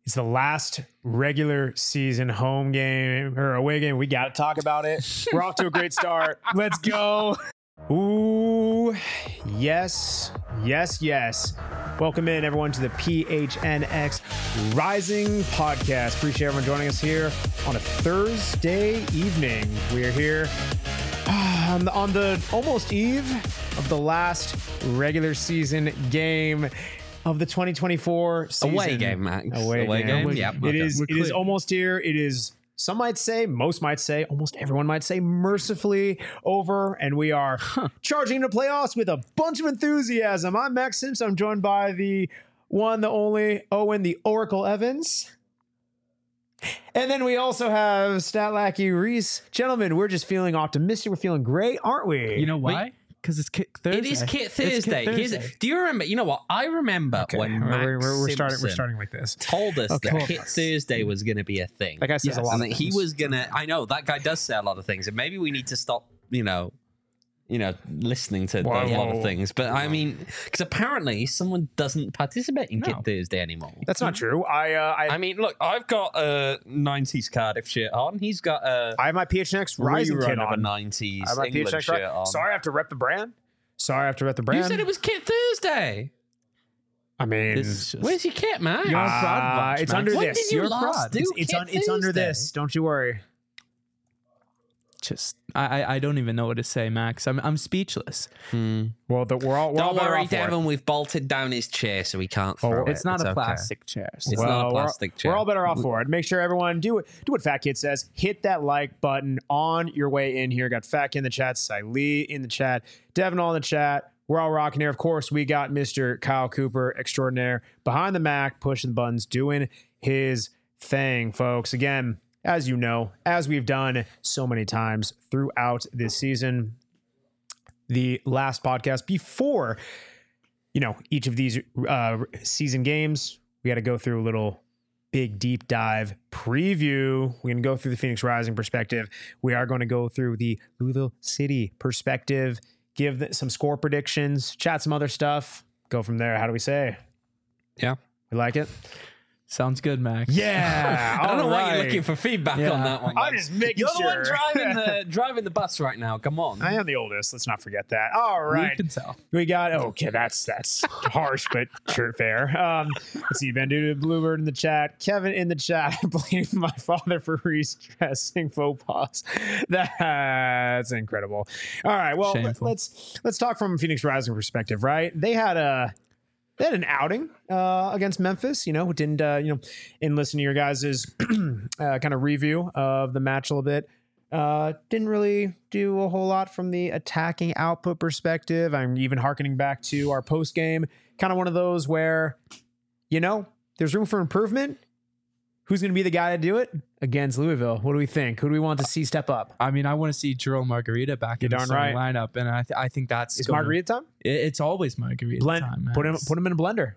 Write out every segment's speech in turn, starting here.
It's the last regular season home game or away game. We got to talk about it. We're off to a great start. Let's go. Ooh, yes. Welcome in, everyone, to the PHNX Rising Podcast. Appreciate everyone joining us here on a Thursday evening. We are here on the almost eve of the last regular season game of the 2024 season. Away game, Max. Away game. Yeah. It is almost here. It is, some might say, most might say, almost everyone might say, mercifully over. And we are charging into playoffs with a bunch of enthusiasm. I'm Max Simpson. I'm joined by the one, the only Owen, the Oracle Evans. And then we also have Statlacky Reese. Gentlemen, we're just feeling optimistic. We're feeling great, aren't we? You know why? Because it's Kit Thursday. It is Kit Thursday. Do you remember? You know what? I remember when Max we're Simpson starting like this. told us that Kit Thursday was going to be a thing. That guy says a lot and of that things. he was going to. I know that guy does say a lot of things, and maybe we need to stop. Listening to a lot of things. But I mean, because apparently someone doesn't participate in Kit Thursday anymore. That's not true. I mean, look, I've got a 90s Cardiff shirt on. He's got a I have my PHNX Rising kit rerun of a on. 90s I have my England PHNX shirt on. Sorry, I have to rep the brand. You said it was Kit Thursday. I mean, Where's your kit, man? You're a fraud bunch, it's Max. under When this. did you You're a last fraud. do It's Kit under Thursday? this. Don't you worry. Just I don't even know what to say, Max. I'm speechless. Well, we're all Don't better worry, off for it. Devin. We've bolted down his chair so he can't throw it. It's not a okay. plastic chair. So It's not a plastic chair. We're all better off for it. Make sure everyone do what Fat Kid says. Hit that like button on your way in here. Got Fat Kid in the chat, Siley in the chat, Devin all in the chat. We're all rocking here. Of course, we got Mr. Kyle Cooper extraordinaire behind the Mac, pushing the buttons, doing his thing, folks. Again, as you know, as we've done so many times throughout this season, the last podcast before, each of these season games, we got to go through a little big deep dive preview. We're going to go through the Phoenix Rising perspective. We are going to go through the Louisville City perspective, give some score predictions, chat some other stuff, go from there. How do we say? Yeah. You like it? sounds good, Max. Yeah. I don't know why all you're right. looking for feedback Yeah. on that one. I'm Max. just making You're sure. the one driving the bus right now. Come on. I am the oldest. Let's not forget that. All We right. can tell. We got okay. That's harsh, but sure, fair. Let's see. Banduda Bluebird in the chat. Kevin in the chat. I blame my father for restressing faux pas. That's incredible. All right. Well, Shameful. let's talk from a Phoenix Rising perspective. Right? They had an outing against Memphis. Who didn't in listening to your guys' kind of review of the match a little bit. Didn't really do a whole lot from the attacking output perspective. I'm even hearkening back to our post game, kind of one of those where, there's room for improvement. Who's going to be the guy to do it against Louisville? What do we think? Who do we want to see step up? I mean, I want to see Jerome Margarita back in the darn starting right. lineup, and I think that's Is Margarita time? It's always Margarita Blend. time. Max. Put him in a blender.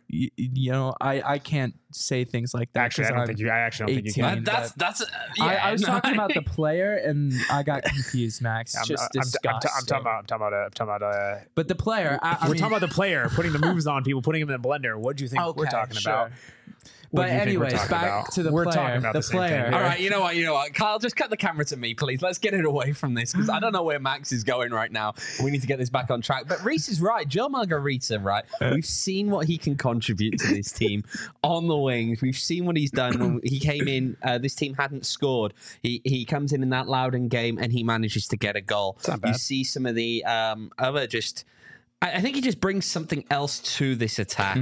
I can't say things like that. Actually, I 'cause don't I'm think you. I actually don't think you 18. can. That's. I was no. talking about the player, and I got confused, Max. I'm Disgusting. talking about. But the player, We're talking about the player putting the moves on people, putting him in the blender. What do you think we're talking about? What But do you think we're anyways, talking back about? to the We're player. talking about the the same thing player. here. All right, you know what? Kyle, just cut the camera to me, please. Let's get it away from this because I don't know where Max is going right now. We need to get this back on track. But Reese is right. Joe Margarita, right? We've seen what he can contribute to this team on the wings. We've seen what he's done when he came in. This team hadn't scored. He comes in that Loudoun game and he manages to get a goal. not bad. You see some of the other just... I think he just brings something else to this attack.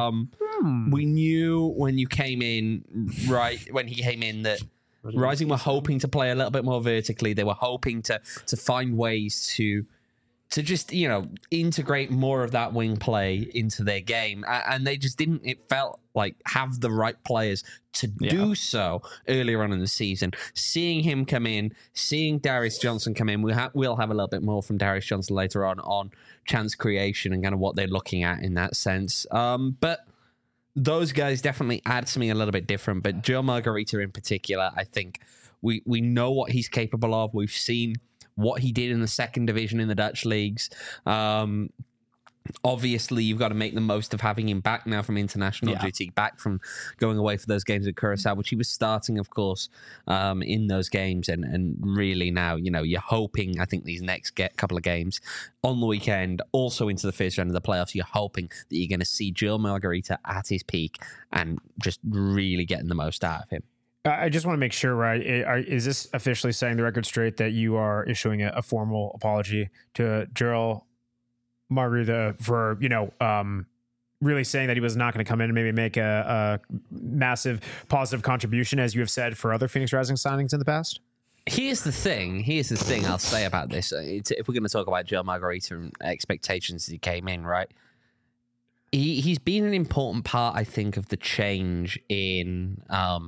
We knew when you came in, right, when he came in that Rising were hoping to play a little bit more vertically. They were hoping to find ways to just, integrate more of that wing play into their game. And they just didn't, it felt like, have the right players to do so earlier on in the season. Seeing him come in, seeing Darius Johnson come in, we'll have a little bit more from Darius Johnson later on chance creation and kind of what they're looking at in that sense. But those guys definitely add something a little bit different. But Joe Margarita in particular, I think we know what he's capable of. We've seen what he did in the second division in the Dutch leagues. Obviously, you've got to make the most of having him back now from international duty, back from going away for those games at Curacao, which he was starting, of course, in those games. And really now, you're hoping, I think, these next couple of games on the weekend, also into the first round of the playoffs, you're hoping that you're going to see Joel Margarita at his peak and just really getting the most out of him. I just want to make sure, right? Is this officially setting the record straight that you are issuing a formal apology to Joel Margarita for, really saying that he was not going to come in and maybe make a massive positive contribution, as you have said for other Phoenix Rising signings in the past? Here's the thing I'll say about this. If we're going to talk about Joel Margarita and expectations as he came in, right? He's been an important part, I think, of the change in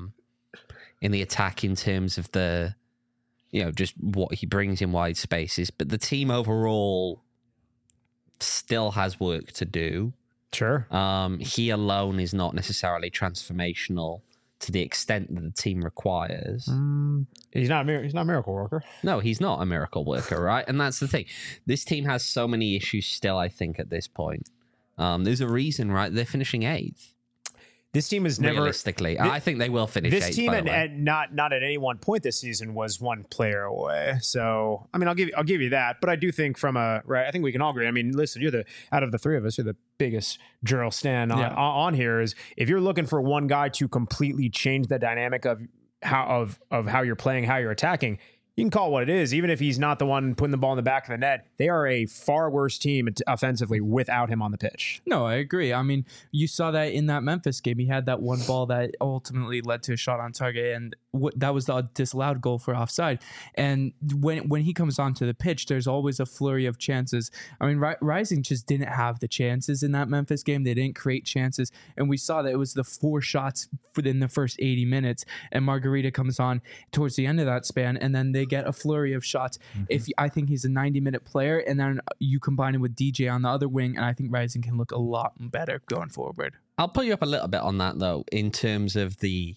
the attack in terms of the, just what he brings in wide spaces. But the team overall still has work to do. Sure. He alone is not necessarily transformational to the extent that the team requires. He's not a miracle worker. No, he's not a miracle worker, right? And that's the thing. This team has so many issues still, I think, at this point. There's a reason, right? They're finishing 8th. This team is never realistically. I think they will finish. This 8th, team, and not at any one point this season, was one player away. So, I mean, I'll give you that. But I do think I think we can all agree. I mean, listen, out of the three of us, you're the biggest Joel stan on here. Is if you're looking for one guy to completely change the dynamic of how you're playing, how you're attacking, you can call it what it is. Even if he's not the one putting the ball in the back of the net, they are a far worse team offensively without him on the pitch. No, I agree. I mean, you saw that in that Memphis game. He had that one ball that ultimately led to a shot on target, and that was the disallowed goal for offside. And when he comes onto the pitch, there's always a flurry of chances. I mean, Rising just didn't have the chances in that Memphis game. They didn't create chances, and we saw that it was the 4 shots within the first 80 minutes, and Margarita comes on towards the end of that span, and then they get a flurry of shots. I think he's a 90-minute player, and then you combine him with DJ on the other wing, and I think Rising can look a lot better going forward. I'll pull you up a little bit on that, though, in terms of the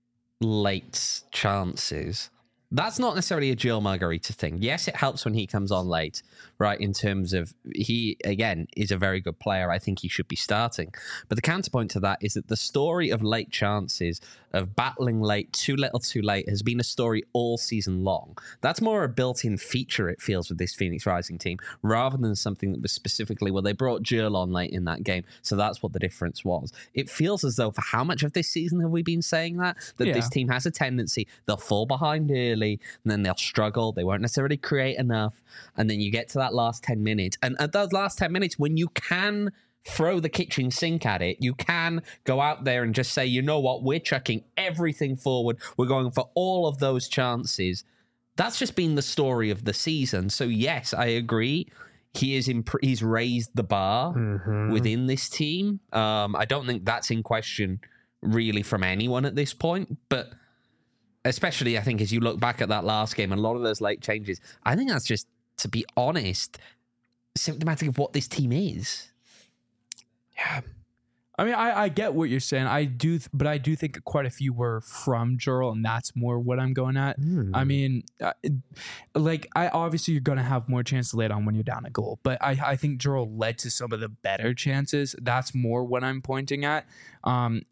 late chances. That's not necessarily a Joel Margarita thing. Yes, it helps when he comes on late, right? In terms of he, again, is a very good player. I think he should be starting. But the counterpoint to that is that the story of late chances, of battling late, too little, too late, has been a story all season long. That's more a built-in feature, it feels, with this Phoenix Rising team, rather than something that was specifically, well, they brought Joel on late in that game, so that's what the difference was. It feels as though, for how much of this season have we been saying that this team has a tendency, they'll fall behind early, and then they'll struggle, they won't necessarily create enough, and then you get to that last 10 minutes, and at those last 10 minutes, when you can throw the kitchen sink at it, you can go out there and just say, you know what, we're chucking everything forward, we're going for all of those chances. That's just been the story of the season. So yes, I agree, he's raised the bar within this team. I don't think that's in question really from anyone at this point, but especially, I think, as you look back at that last game and a lot of those late changes, I think that's just, to be honest, symptomatic of what this team is. Yeah. I mean, I get what you're saying. But I do think quite a few were from Joel, and that's more what I'm going at. I mean, obviously you're going to have more chance to lay it on when you're down a goal, but I think Joel led to some of the better chances. That's more what I'm pointing at. I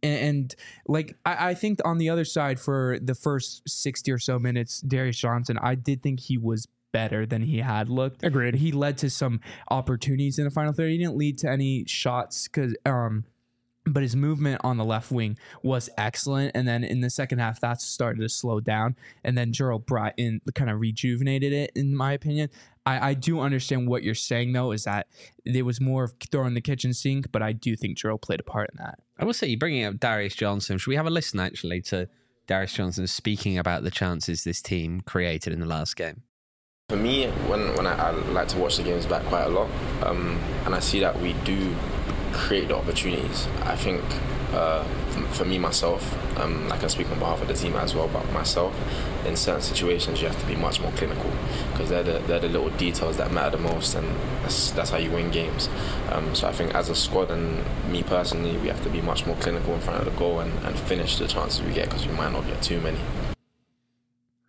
think on the other side, for the first 60 or so minutes, Darius Johnson, I did think he was better than he had looked. Agreed. He led to some opportunities in the final third. He didn't lead to any shots but his movement on the left wing was excellent. And then in the second half, that started to slow down. And then Joel brought in, kind of rejuvenated it, in my opinion. I do understand what you're saying, though, is that it was more of throwing the kitchen sink, but I do think Joel played a part in that. I will say, you're bringing up Darius Johnson. Should we have a listen, actually, to Darius Johnson speaking about the chances this team created in the last game? For me, when I like to watch the games back quite a lot, and I see that we do create the opportunities. I think for me, myself, I can speak on behalf of the team as well, but myself, in certain situations, you have to be much more clinical, because they're the little details that matter the most, and that's how you win games. So I think as a squad, and me personally, we have to be much more clinical in front of the goal and finish the chances we get, because we might not get too many.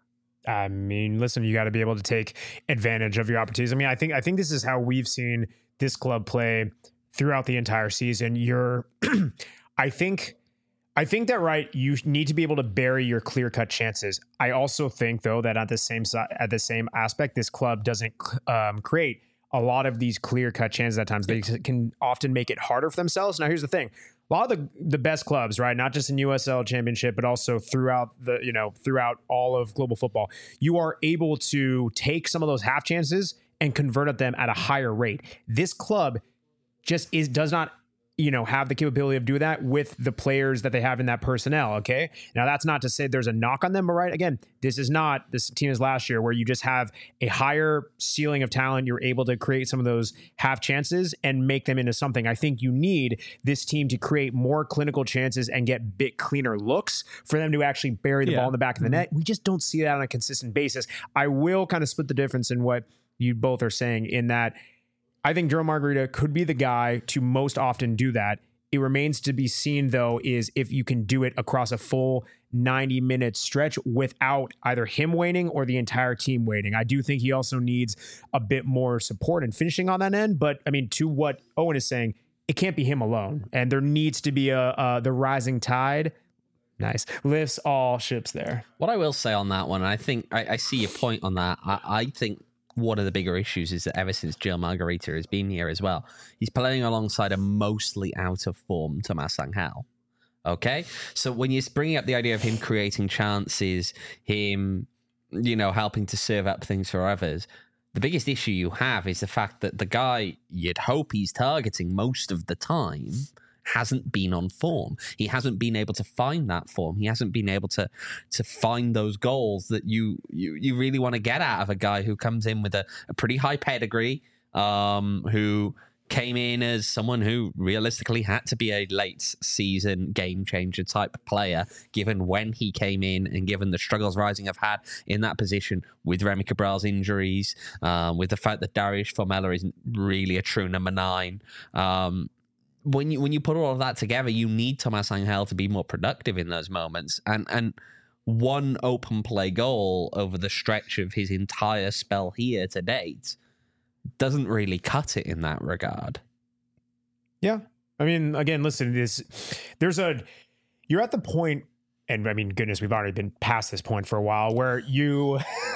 I mean, listen, you got to be able to take advantage of your opportunities. I mean, I think this is how we've seen this club play throughout the entire season, you're, I think that, right, you need to be able to bury your clear-cut chances. I also think, though, that at the same aspect, this club doesn't create a lot of these clear-cut chances at times. They can often make it harder for themselves. Now, here's the thing. A lot of the best clubs, right, not just in USL Championship, but also throughout all of global football, you are able to take some of those half chances and convert them at a higher rate. This club just does not have the capability of doing that with the players that they have in that personnel. Okay. Now that's not to say there's a knock on them, but right. Again, this team is last year where you just have a higher ceiling of talent. You're able to create some of those half chances and make them into something. I think you need this team to create more clinical chances and get bit cleaner looks for them to actually bury the ball in the back of the net. We just don't see that on a consistent basis. I will kind of split the difference in what you both are saying in that I think Joe Margarita could be the guy to most often do that. It remains to be seen, though, is if you can do it across a full 90-minute stretch without either him waning or the entire team waiting. I do think he also needs a bit more support and finishing on that end. But, I mean, to what Owen is saying, it can't be him alone. And there needs to be the rising tide. Nice. Lifts all ships there. What I will say on that one, I think I see your point on that. I think one of the bigger issues is that ever since Gil Margarita has been here as well, he's playing alongside a mostly out of form Tomas Angel. Okay? So when you're bringing up the idea of him creating chances, him, helping to serve up things for others, the biggest issue you have is the fact that the guy you'd hope he's targeting most of the time hasn't been on form. He hasn't been able to find that form. He hasn't been able to find those goals that you really want to get out of a guy who comes in with a pretty high pedigree, who came in as someone who realistically had to be a late season game changer type player, given when he came in and given the struggles Rising have had in that position with Remy Cabral's injuries, with the fact that Darius Formella isn't really a true number 9. When you put all of that together, you need Tomas Angel to be more productive in those moments. And one open play goal over the stretch of his entire spell here to date doesn't really cut it in that regard. Yeah. I mean, again, listen, you're at the point, and I mean, goodness, we've already been past this point for a while where you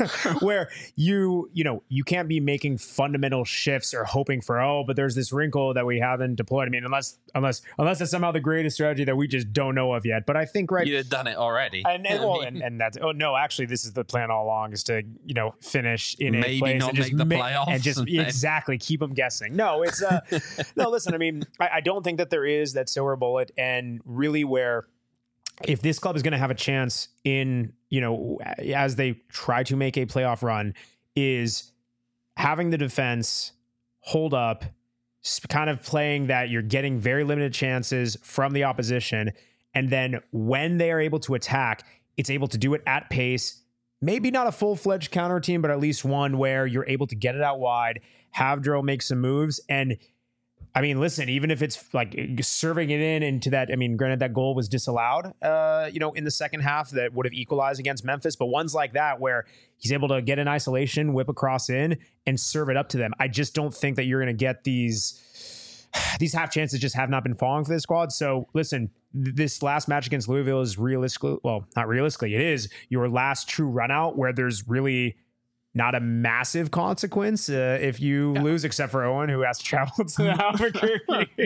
can't be making fundamental shifts or hoping for, but there's this wrinkle that we haven't deployed. I mean, unless it's somehow the greatest strategy that we just don't know of yet. But I think, right, you'd have done it already. And that's, actually, this is the plan all along, is to, finish in maybe a place not and just make the playoffs and just exactly keep them guessing. No, it's no, listen, I mean, I don't think that there is that silver bullet, and really where, if this club is going to have a chance in, as they try to make a playoff run, is having the defense hold up, kind of playing that you're getting very limited chances from the opposition. And then when they are able to attack, it's able to do it at pace. Maybe not a full-fledged counter team, but at least one where you're able to get it out wide, have Drill make some moves. And I mean, listen, even if it's like serving it into that, I mean, granted that goal was disallowed, in the second half that would have equalized against Memphis, but ones like that where he's able to get in isolation, whip across in and serve it up to them. I just don't think that you're going to get these half chances just have not been falling for this squad. So listen, this last match against Louisville is not realistically, it is your last true run out where there's really not a massive consequence if you lose, except for Owen, who has to travel to Albuquerque.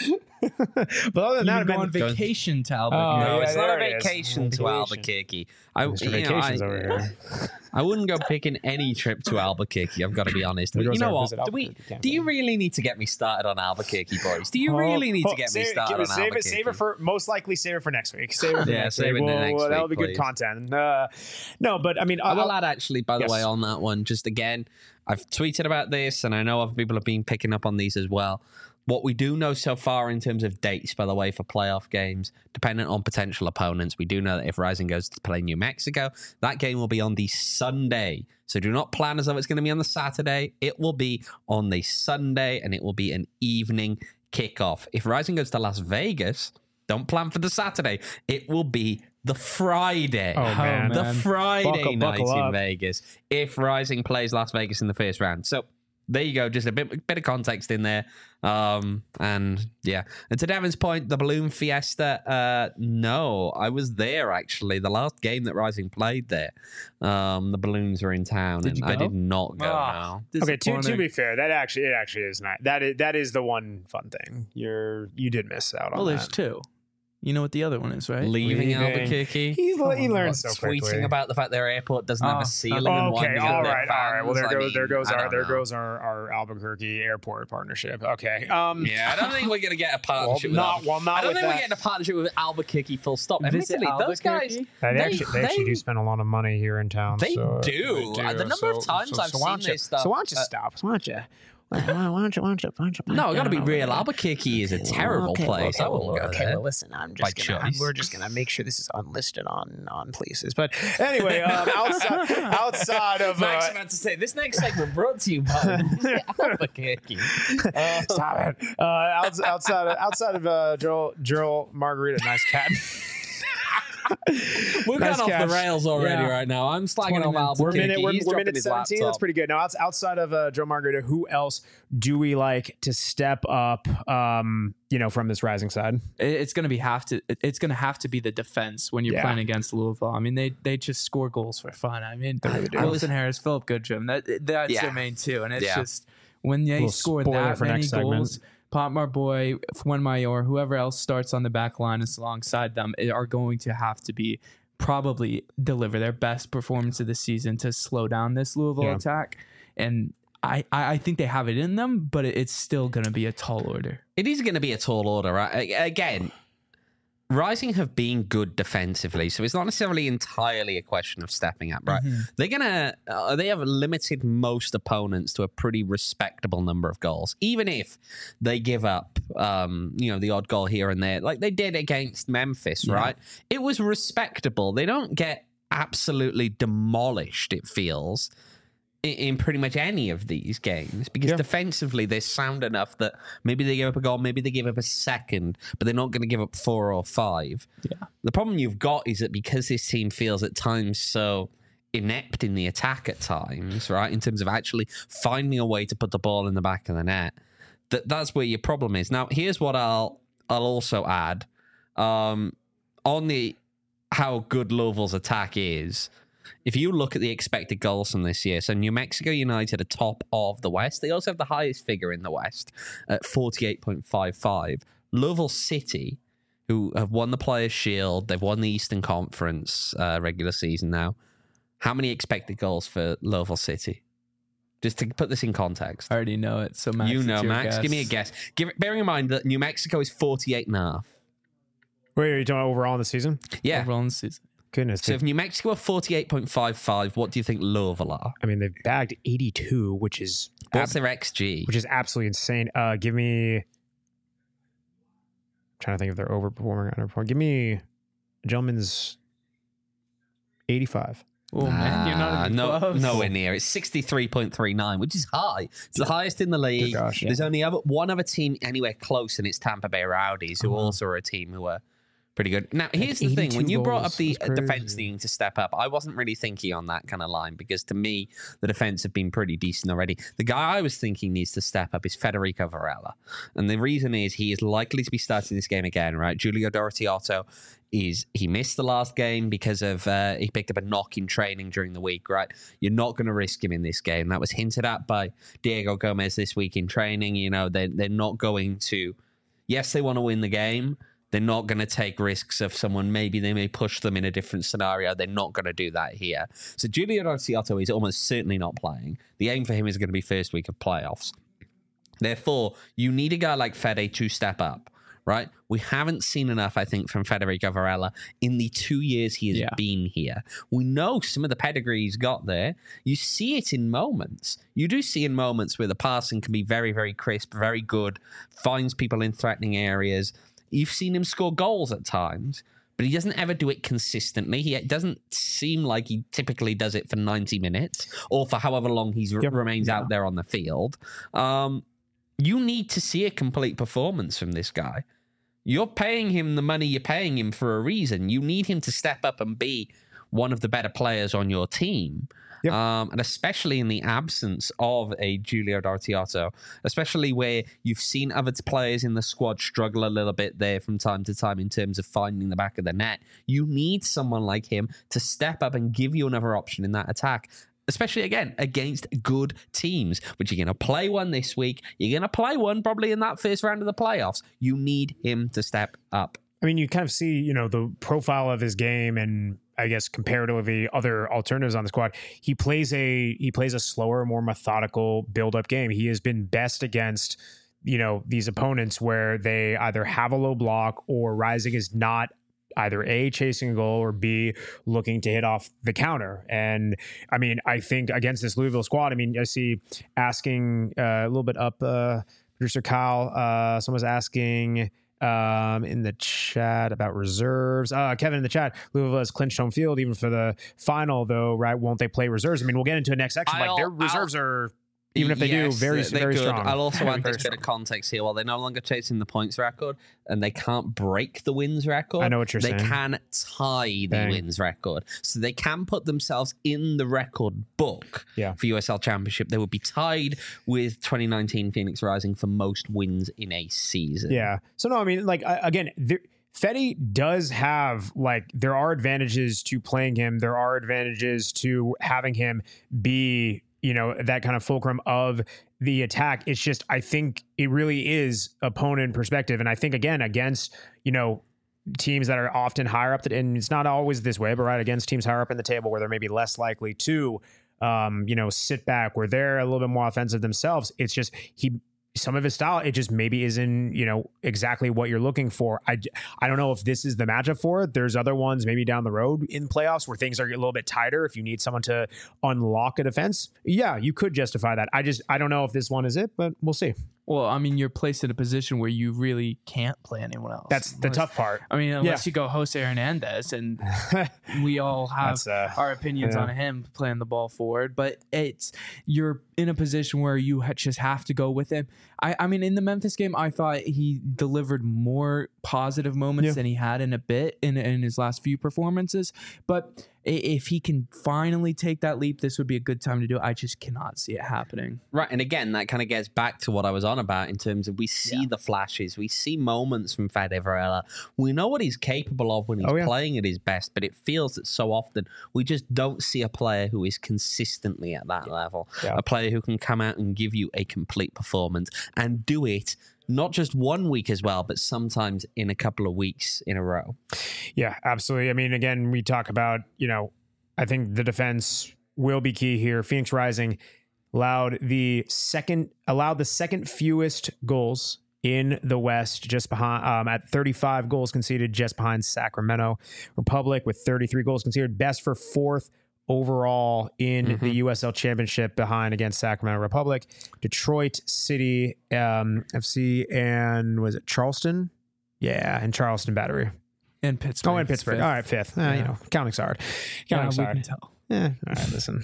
But other than that, go on vacation to Albuquerque. No, it's not a it is. vacation to Albuquerque. Vacations over here. I wouldn't go picking any trip to Albuquerque. I've got to be honest. But you know what? Do you really need to get me started on Albuquerque, boys? Do you really need to get me started on Albuquerque? Save it for next week. Save it for next week. That'll be good content. No, but I mean, I will add actually, by the way, on that one, just again, I've tweeted about this, and I know other people have been picking up on these as well. What we do know so far in terms of dates, by the way, for playoff games, dependent on potential opponents, we do know that if Rising goes to play New Mexico, that game will be on the Sunday. So do not plan as though it's going to be on the Saturday. It will be on the Sunday, and it will be an evening kickoff. If Rising goes to Las Vegas, don't plan for the Saturday. It will be the Friday. Oh, man. The Friday buckle night up. in Vegas if Rising plays Las Vegas in the first round. So there you go. Just a bit of context in there. And yeah. And to Devin's point, the Balloon Fiesta, no, I was there actually. The last game that Rising played there, the balloons were in town. Did you I go? did not go. No. Okay, to Disappointing. be fair, it actually is not. That is the one fun thing. You did miss out on Well, there's that. two. You know what the other one is, right? Leaving Leaving. Albuquerque. He learns so Tweeting quickly. about the fact their airport doesn't have Oh, a ceiling and Okay, winding all up their right. Well, fans. there I goes don't know. our Albuquerque airport partnership. Okay. Yeah, I don't think we're going to get a partnership with Albuquerque. I don't think we're getting a partnership with Albuquerque full stop. Visit Admittedly, those guys, Albuquerque? They actually do spend a lot of money here in town. They so do. The number of times I've why seen don't you- this stuff. So why don't you stop? Why don't you? Why don't you? No, I got to be real. Albuquerque is a terrible place. I wouldn't go there. Well, listen, By choice. we're just gonna make sure this is unlisted on places. But anyway, outside of Max about to say this next segment brought to you by Albuquerque. stop it. Outside of Joel Margarita, nice cat. We've Nice gone off catch. the rails already Yeah. right now. I'm slagging 20 off minutes. Albuquerque. We're He's minute dropping his 17. That's laptop. pretty good. Now, outside of Joe Margarita, who else do we like to step up? From this Rising side. It's gonna have to be the defense when you're Yeah. playing against Louisville. I mean, they just score goals for fun. I mean, They really do. Wilson Harris, Philip Goodrum, that's Yeah. their main two, and it's Yeah. just when they Little score spoiler that for many next segment. goals. Potmar Boy, Fuenmayor, whoever else starts on the back line is alongside them are going to have to be probably deliver their best performance of the season to slow down this Louisville attack. And I think they have it in them, but it's still going to be a tall order. It is going to be a tall order, right? Again, Rising have been good defensively, so it's not necessarily entirely a question of stepping up, right? They're gonna they have limited most opponents to a pretty respectable number of goals, even if they give up, the odd goal here and there, like they did against Memphis, right? It was respectable. They don't get absolutely demolished. It feels. In pretty much any of these games, because defensively they're sound enough that maybe they give up a goal, maybe they give up a second, but they're not going to give up 4 or 5. Yeah. The problem you've got is that because this team feels at times so inept in the attack at times, right, in terms of actually finding a way to put the ball in the back of the net, that's where your problem is. Now, here's what I'll also add on the how good Louisville's attack is. If you look at the expected goals from this year, so New Mexico United are top of the West. They also have the highest figure in the West at 48.55. Louisville City, who have won the Players' Shield, they've won the Eastern Conference regular season now. How many expected goals for Louisville City? Just to put this in context. I already know it. So Max, You know, it's your Max. guess. Give me a guess. Bearing in mind that New Mexico is 48.5. Wait, are you talking about overall in the season? Yeah. Overall in the season. Goodness. So if New Mexico are 48.55, what do you think Louisville are? I mean, they've bagged 82, which is What's their XG? absolutely insane. Give me. I'm trying to think if they're overperforming or underperforming. Give me a gentleman's 85. Oh man, you're not even close. nowhere near. It's 63.39, which is high. It's the highest in the league. gosh, There's only one other team anywhere close, and it's Tampa Bay Rowdies, who also are a team who are pretty good. Now, here's the thing. When 82 you brought up goals. the That's defense crazy. needing to step up, I wasn't really thinking on that kind of line because to me, the defense have been pretty decent already. The guy I was thinking needs to step up is Federico Varela. And the reason is he is likely to be starting this game again, right? Giulio Dorottiotto he missed the last game because of he picked up a knock in training during the week, right? You're not going to risk him in this game. That was hinted at by Diego Gomez this week in training. You know, they're not going to, yes, they want to win the game. They're not going to take risks of someone. Maybe they may push them in a different scenario. They're not going to do that here. So Giulio Dorottiotto is almost certainly not playing. The aim for him is going to be first week of playoffs. Therefore, you need a guy like Fede to step up, right? We haven't seen enough, I think, from Federico Varela in the 2 years he has been here. We know some of the pedigree he's got there. You see it in moments. You do see in moments where the passing can be very, very crisp, very good, finds people in threatening areas. You've seen him score goals at times, but he doesn't ever do it consistently. It doesn't seem like he typically does it for 90 minutes or for however long he remains out there on the field. You need to see a complete performance from this guy. You're paying him the money you're paying him for a reason. You need him to step up and be one of the better players on your team. Yep. And especially in the absence of a Giulio D'Artiato, especially where you've seen other players in the squad struggle a little bit there from time to time in terms of finding the back of the net. You need someone like him to step up and give you another option in that attack, especially, again, against good teams, which you're going to play one this week. You're going to play one probably in that first round of the playoffs. You need him to step up. I mean, you kind of see, the profile of his game and I guess comparatively other alternatives on the squad. He plays a slower, more methodical build-up game. He has been best against, these opponents where they either have a low block or Rising is not either A, chasing a goal, or B, looking to hit off the counter. And I mean, I think against this Louisville squad, I see asking a little bit up, producer Kyle, someone's asking in the chat about reserves. Kevin in the chat, Louisville has clinched home field even for the final, though, right? Won't they play reserves? I mean, we'll get into the next section. Their reserves are, even if they do, very strong. I'll also add this bit of context here. While they're no longer chasing the points record and they can't break the wins record, I know what you're saying. They can tie the wins record. So they can put themselves in the record book for USL Championship. They would be tied with 2019 Phoenix Rising for most wins in a season. Yeah. So, no, I mean, again, Fetty does have, there are advantages to playing him. There are advantages to having him be that kind of fulcrum of the attack. It's just, I think it really is opponent perspective. And I think, again, against, teams that are often higher up, and it's not always this way, but right, against teams higher up in the table where they're maybe less likely to, sit back, where they're a little bit more offensive themselves. It's just, some of his style, it just maybe isn't, exactly what you're looking for. I don't know if this is the matchup for it. There's other ones maybe down the road in playoffs where things are a little bit tighter. If you need someone to unlock a defense, yeah, you could justify that. I don't know if this one is it, but we'll see. Well, I mean, you're placed in a position where you really can't play anyone else. That's the tough part. I mean, unless you go Jose Hernandez, and we all have our opinions on him playing the ball forward, but you're in a position where you just have to go with him. I mean, in the Memphis game, I thought he delivered more positive moments than he had in a bit in his last few performances. But if he can finally take that leap, this would be a good time to do it. I just cannot see it happening. Right. And again, that kind of gets back to what I was on about in terms of we see the flashes. We see moments from Fede Varela. We know what he's capable of when he's playing at his best, but it feels that so often we just don't see a player who is consistently at that level. Yeah. A player who can come out and give you a complete performance and do it not just 1 week as well, but sometimes in a couple of weeks in a row. Yeah, absolutely. I mean, again, we talk about, I think the defense will be key here. Phoenix Rising allowed the second fewest goals in the West, just behind at 35 goals conceded, just behind Sacramento Republic with 33 goals conceded, best for fourth overall in the USL Championship, behind against Sacramento Republic, Detroit City FC, and was it Charleston? Yeah, and Charleston Battery. And Pittsburgh. Oh, and Pittsburgh. Fifth. All right, fifth. Counting's hard. Counting's hard. We can tell. Yeah. All right, listen.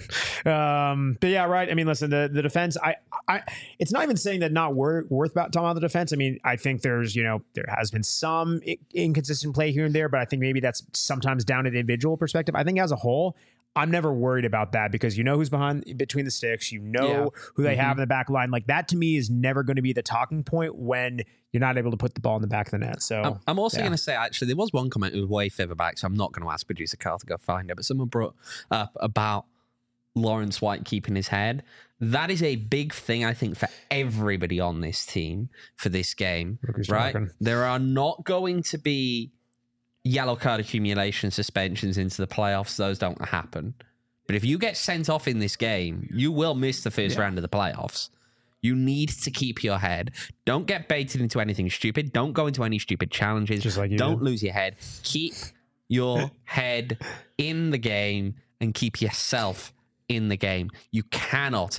But yeah, right. I mean, listen, the defense, I it's not even saying that not worth about talking about the defense. I mean, I think there's, there has been some inconsistent play here and there, but I think maybe that's sometimes down to the individual perspective. I think as a whole, I'm never worried about that because you know who's between the sticks, who they have in the back line. Like that to me is never going to be the talking point when you're not able to put the ball in the back of the net. So I'm also going to say, actually, there was one comment who was way further back, so I'm not going to ask producer Carl to go find it, but someone brought up about Lawrence White keeping his head. That is a big thing, I think, for everybody on this team for this game, right? There are not going to be yellow card accumulation suspensions into the playoffs. Those don't happen. But if you get sent off in this game, you will miss the first round of the playoffs. You need to keep your head. Don't get baited into anything stupid. Don't go into any stupid challenges. Just like don't lose your head. Keep your head in the game and keep yourself in the game. You cannot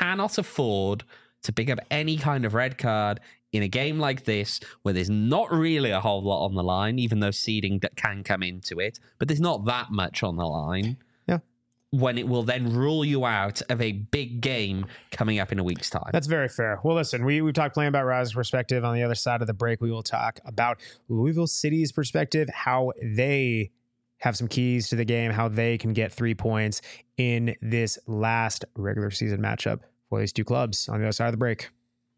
afford to pick up any kind of red card in a game like this, where there's not really a whole lot on the line, even though seeding can come into it, but there's not that much on the line. Yeah. When it will then rule you out of a big game coming up in a week's time. That's very fair. Well, listen, we've talked plenty about Rising's perspective. On the other side of the break, we will talk about Louisville City's perspective, how they have some keys to the game, how they can get 3 points in this last regular season matchup for these two clubs on the other side of the break.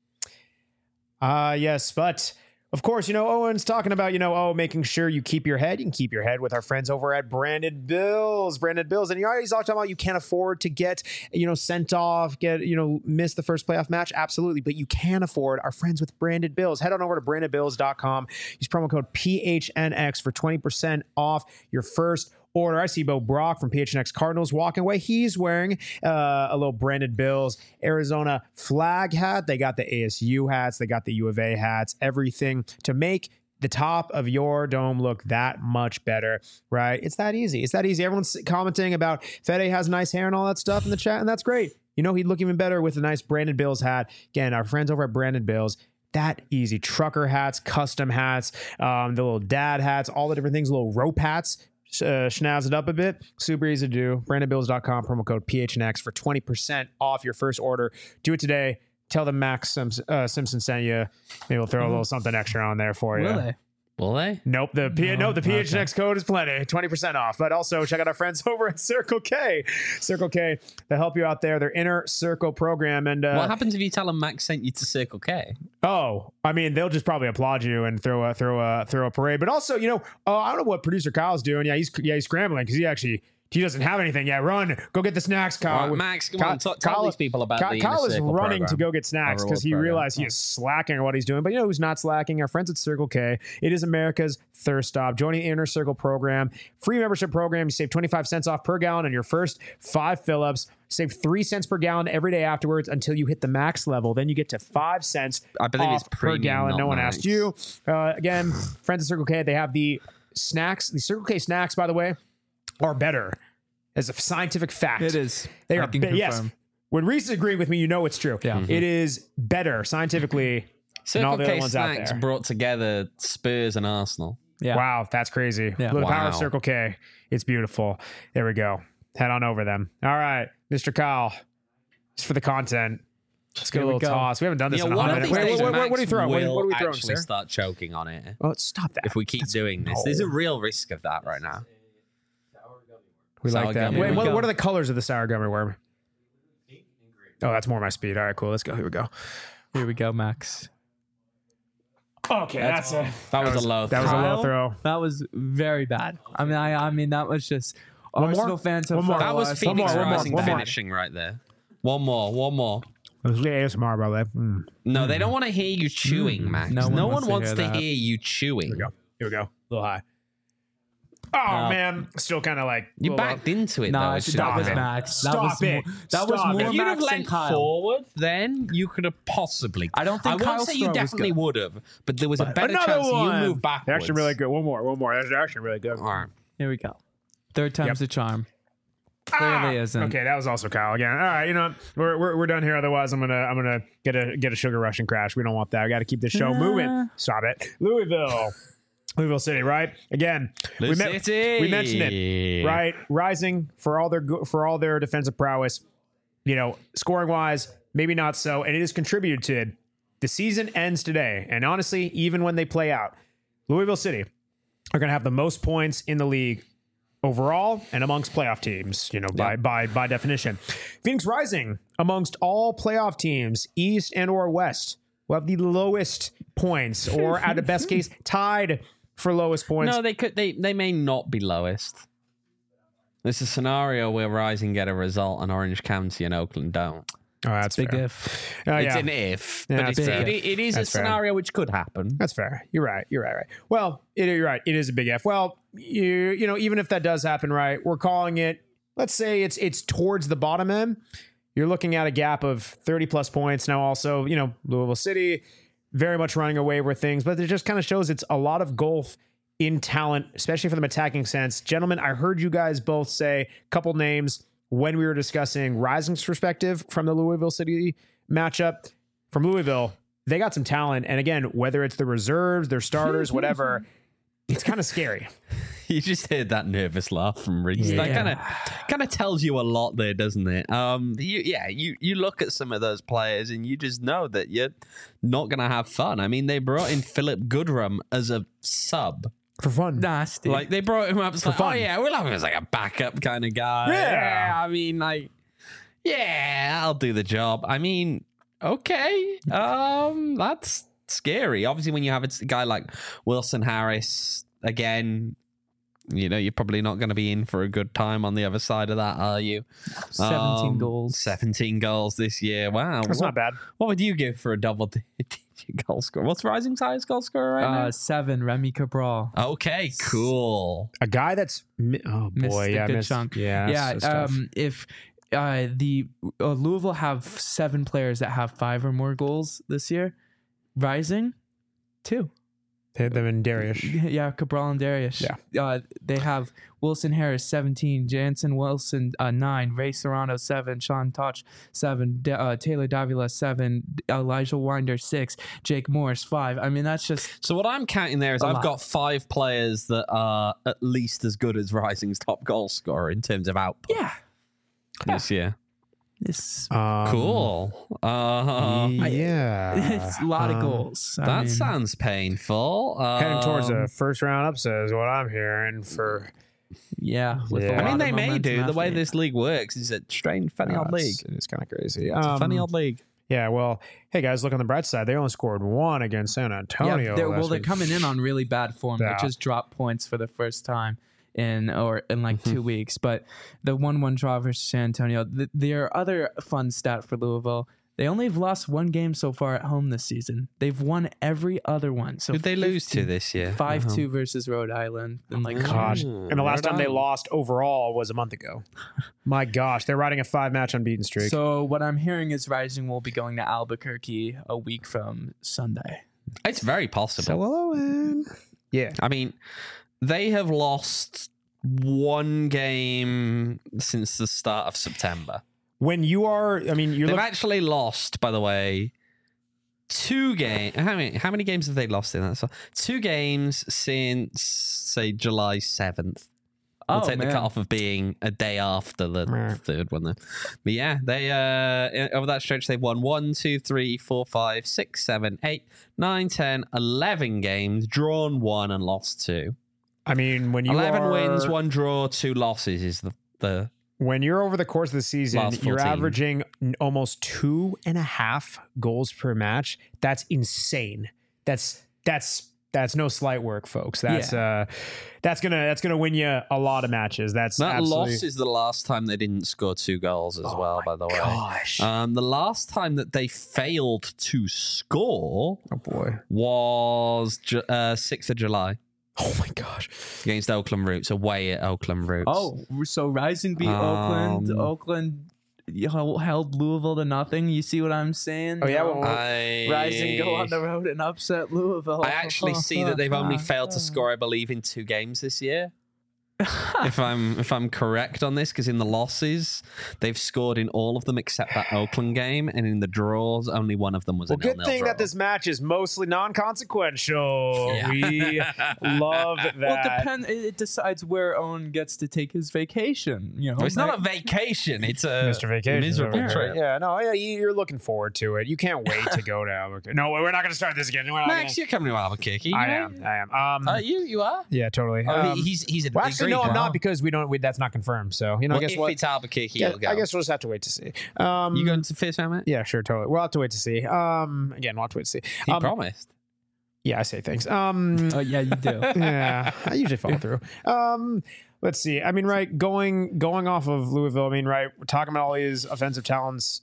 Yes, but of course, Owen's talking about, making sure you keep your head. You can keep your head with our friends over at Branded Bills. Branded Bills. And you always talking about you can't afford to get, sent off, miss the first playoff match. Absolutely. But you can afford our friends with Branded Bills. Head on over to brandedbills.com. Use promo code PHNX for 20% off your first order. I see Bo Brock from PHNX Cardinals walking away. He's wearing a little Branded Bills Arizona flag hat. They got the ASU hats. They got the U of A hats. Everything to make the top of your dome look that much better, right? It's that easy. It's that easy. Everyone's commenting about Fede has nice hair and all that stuff in the chat, and that's great. He'd look even better with a nice Branded Bills hat. Again, our friends over at Branded Bills. That easy. Trucker hats, custom hats, the little dad hats, all the different things, little rope hats. Schnazz it up a bit. Super easy to do. BrandonBills.com, promo code PHNX for 20% off your first order. Do it today. Tell them Max Simpson sent you. Maybe we'll throw a little something extra on there for you. Will they? Nope. The PHNX code is plenty. 20% off. But also check out our friends over at Circle K. Circle K, they help you out there. Their Inner Circle program. And what happens if you tell them Max sent you to Circle K? Oh, I mean, they'll just probably applaud you and throw a parade. But also, I don't know what producer Kyle's doing. Yeah, he's scrambling because he doesn't have anything yet. Run, go get the snacks, Kyle. Right, Max, come on, tell these people about the Kyle is running program. to go get snacks because he realized he is slacking on what he's doing. But who's not slacking? Our friends at Circle K. It is America's thirst stop. Joining the Inner Circle program, free membership program. You save 25 cents off per gallon on your first 5 fill-ups. Save 3 cents per gallon every day afterwards until you hit the max level. Then you get to 5 cents I believe off it's per gallon. No one max. asked you. Again, friends at Circle K, they have the snacks. The Circle K snacks, by the way, are better. As a scientific fact. It is. They I are can confirm. yes. When Reese is agreeing with me, it's true. Yeah. It is better scientifically than all Circle the other K ones out snacks there. brought together Spurs and Arsenal. Yeah. Wow, that's crazy. Yeah. The power of Wow. Circle K. It's beautiful. There we go. Head on over them. All right, Mr. Kyle. Just for the content. Let's get Here a we little go. toss. We haven't done this in a One hot of minute. these days, What are you throwing? What are we throwing, actually sir? start choking on it Oh, stop that. if we keep doing this. There's a real risk of that right now. We Sour like that. gummy Wait, worm. what are the colors of the sour gummy worm? Oh, that's more my speed. All right, cool. Let's go. Here we go. Here we go, Max. Okay, That was a low. that was a low throw. That was very bad. I mean, that was just One more? Arsenal fans. So One more. far That was lost. Phoenix more, Rising one more. finishing right there. One more. It was ASMR, by the way. No, they don't want to hear you chewing, Max. No No one one wants wants to to hear that. hear you chewing. Here we go. A little high. Oh, man. Still kind of like... You little backed into it, No, though. that It's was Stop just- it. Max. Stop that was it. More, that was Stop more it. If you'd have Max than leant Kyle. forward, then you could have possibly. I don't think I won't Kyle's say you throw was definitely good. would have, but there was a better Another chance one. you moved backwards. They're actually really good. One more. That's actually really good. All right. Here we go. Third time's the charm. Clearly isn't. Okay, that was also Kyle again. All right, we're done here. Otherwise, I'm gonna get a sugar rush and crash. We don't want that. We got to keep this show moving. Stop it, Louisville City. Right again. We mentioned it. Right, rising for all their defensive prowess. Scoring wise, maybe not so, and it has contributed to. The season ends today, and honestly, even when they play out, Louisville City are going to have the most points in the league overall and amongst playoff teams, by definition. Phoenix Rising, amongst all playoff teams, East and or West, will have the lowest points, or at the best case, tied for lowest points. No, they could. They may not be lowest. There's a scenario where Rising get a result and Orange County and Oakland don't. Oh, that's Big fair. if. It's Yeah. an if, Yeah, but that's it's, fair. it is That's a fair. scenario which could happen. That's fair. You're right. Right. Well, you're right. It is a big F. Well, even if that does happen, right, we're calling it, let's say it's towards the bottom end. You're looking at a gap of 30 plus points. Now also, Louisville City very much running away with things, but it just kind of shows it's a lot of gulf in talent, especially for the attacking sense. Gentlemen, I heard you guys both say a couple names when we were discussing Rising's perspective from the Louisville City matchup. From Louisville, they got some talent. And again, whether it's the reserves, their starters, whatever, it's kind of scary. You just heard that nervous laugh from Reese. Yeah. That kind of tells you a lot there, doesn't it? You look at some of those players and you just know that you're not going to have fun. I mean, they brought in Philip Goodrum as a sub. For fun. nasty. Like they brought him up for fun. Oh yeah, we'll have him as like a backup kind of guy. Yeah. I mean, like, yeah, I'll do the job. I mean, okay, that's scary. Obviously, when you have a guy like Wilson Harris again, you know, you're probably not going to be in for a good time on the other side of that, are you? 17 goals. 17 goals this year. Wow. That's not bad. What would you give for a double-digit goal scorer? What's Rising's highest goal scorer right now? 7, Remy Cabral. Okay, cool. A guy that's Missed a good chunk. Yeah, that's tough. If the Louisville have 7 players that have 5 or more goals this year, Rising 2. They have them in Darius. Yeah, Cabral and Darius. Yeah. They have Wilson Harris 17, Jansen Wilson 9, Ray Serrano 7, Sean Touch 7, Taylor Davila 7, Elijah Winder 6, Jake Morris 5. I mean, that's just So what I'm counting there is A I've lot. got 5 players that are at least as good as Rising's top goal scorer in terms of output this year. It's Cool. Yeah. it's a lot of goals. I That mean, sounds painful. Heading towards a first round upset is what I'm hearing for. yeah. With Yeah. a I I lot mean, of they may momentum do. The after way it. this league works is a strange, funny old league. It's kind of crazy. Funny old league. Yeah, well, hey guys, look on the bright side. They only scored 1 against San Antonio. they're, last they're week. coming in on really bad form. Yeah. They just dropped points for the first time in like 2 weeks. But the 1-1 draw versus San Antonio. Their other fun stat for Louisville: they only have lost 1 game so far at home this season. They've won every other one. So Who'd they lose to this year? 5-2 versus Rhode Island. And like Gosh. Oh, And the last Rhode time they Island. lost overall was a month ago. My gosh, they're riding a 5-match unbeaten streak. So what I'm hearing is Rising will be going to Albuquerque a week from Sunday. It's very possible. So Owen. Yeah. I mean, they have lost 1 game since the start of September. When you are, I mean, you're They've looking. actually lost, by the way, 2 games. How many games have they lost in that? So 2 games since, say, July 7th. We'll take the cutoff of being a day after the Meh. 3rd one, then. But yeah, they over that stretch they've won 1, 2, 3, 4, 5, 6, 7, 8, 9, 10, 11 games, drawn 1 and lost 2. I mean, when you 11 are, wins, 1 draw, 2 losses is the when you're over the course of the season, Last you're 14. averaging almost 2.5 goals per match. That's insane. That's no slight work, folks. That's gonna win you a lot of matches. That's that absolutely, loss is the last time they didn't score 2 goals as well, by the way. gosh. The last time that they failed to score Oh boy. was 6th of July Oh my gosh. against Oakland Roots, away at Oakland Roots. Oh, so Rising beat Oakland. Oakland held Louisville to nothing. You see what I'm saying? Oh, yeah, well, Rising go on the road and upset Louisville. I actually see that they've only failed to score, I believe, in 2 games this year. if I'm correct on this, because in the losses they've scored in all of them except that Oakland game, and in the draws only one of them was Well, a good 0-0 thing draw. that this match is mostly non-consequential. Yeah. We love that. Well, it decides where Owen gets to take his vacation. You know, Well, it's not a vacation; it's a Mr. Vacation. miserable trip. Yeah, no, yeah, you're looking forward to it. You can't wait to go to Albuquerque. No, we're not going to start this again. We're not Max, gonna- you're coming to Albuquerque. I am. You are. Yeah, totally. He's a well, big actually, no, Greek, I'm huh? not because that's not confirmed. So, I Well, guess if what? it's Albuquerque, Yeah, you'll go. I guess we'll just have to wait to see. You going to Fist Helmet? Yeah, sure, totally. We'll have to wait to see. Again, we'll have to wait to see. He promised. Yeah, I say thanks. Oh yeah, you do. Yeah, I usually follow through. Let's see. I mean, right, going off of Louisville. I mean, right, we're talking about all these offensive talents.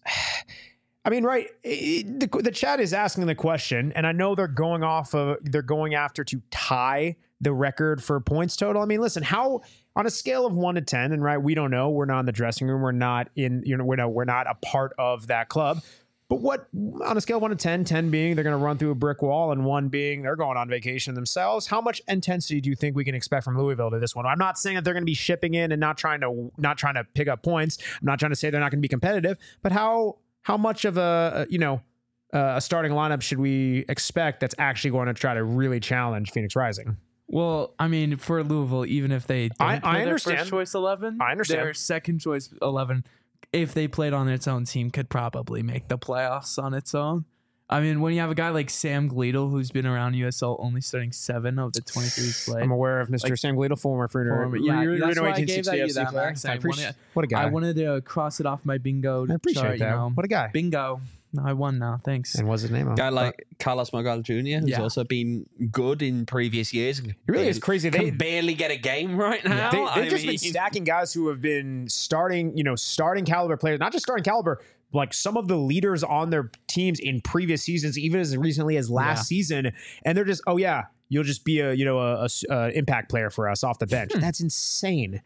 I mean, right, the chat is asking the question, and I know they're going after to tie the record for points total. I mean, listen, how on a scale of 1 to 10, and right, we don't know. We're not in the dressing room. We're not in. We're not a part of that club. But what on a scale of 1 to 10, 10 being they're going to run through a brick wall, and 1 being they're going on vacation themselves, how much intensity do you think we can expect from Louisville to this one? I'm not saying that they're going to be shipping in and not trying to pick up points. I'm not trying to say they're not going to be competitive, but how much of a starting lineup should we expect that's actually going to try to really challenge Phoenix Rising? Well, I mean, for Louisville, even if they don't I play their understand. first choice 11, I understand. their second choice 11, if they played on its own team, could probably make the playoffs on its own. I mean, when you have a guy like Sam Gleadle, who's been around USL only starting 7 of the 23 he's played. I'm aware of Mr. Sam Gleadle, former Fruiner. That's why I gave that you that, Max. What a guy. I wanted to cross it off my bingo. I appreciate chart, that. What a guy. Bingo. I won now. Thanks. And what's his name? Guy like Carlos Magal Jr., who's also been good in previous years. It really is crazy. They can barely get a game right now. They've just been stacking guys who have been starting caliber players, not just starting caliber, like some of the leaders on their teams in previous seasons, even as recently as last season. And they're just, you'll just be a impact player for us off the bench. That's insane.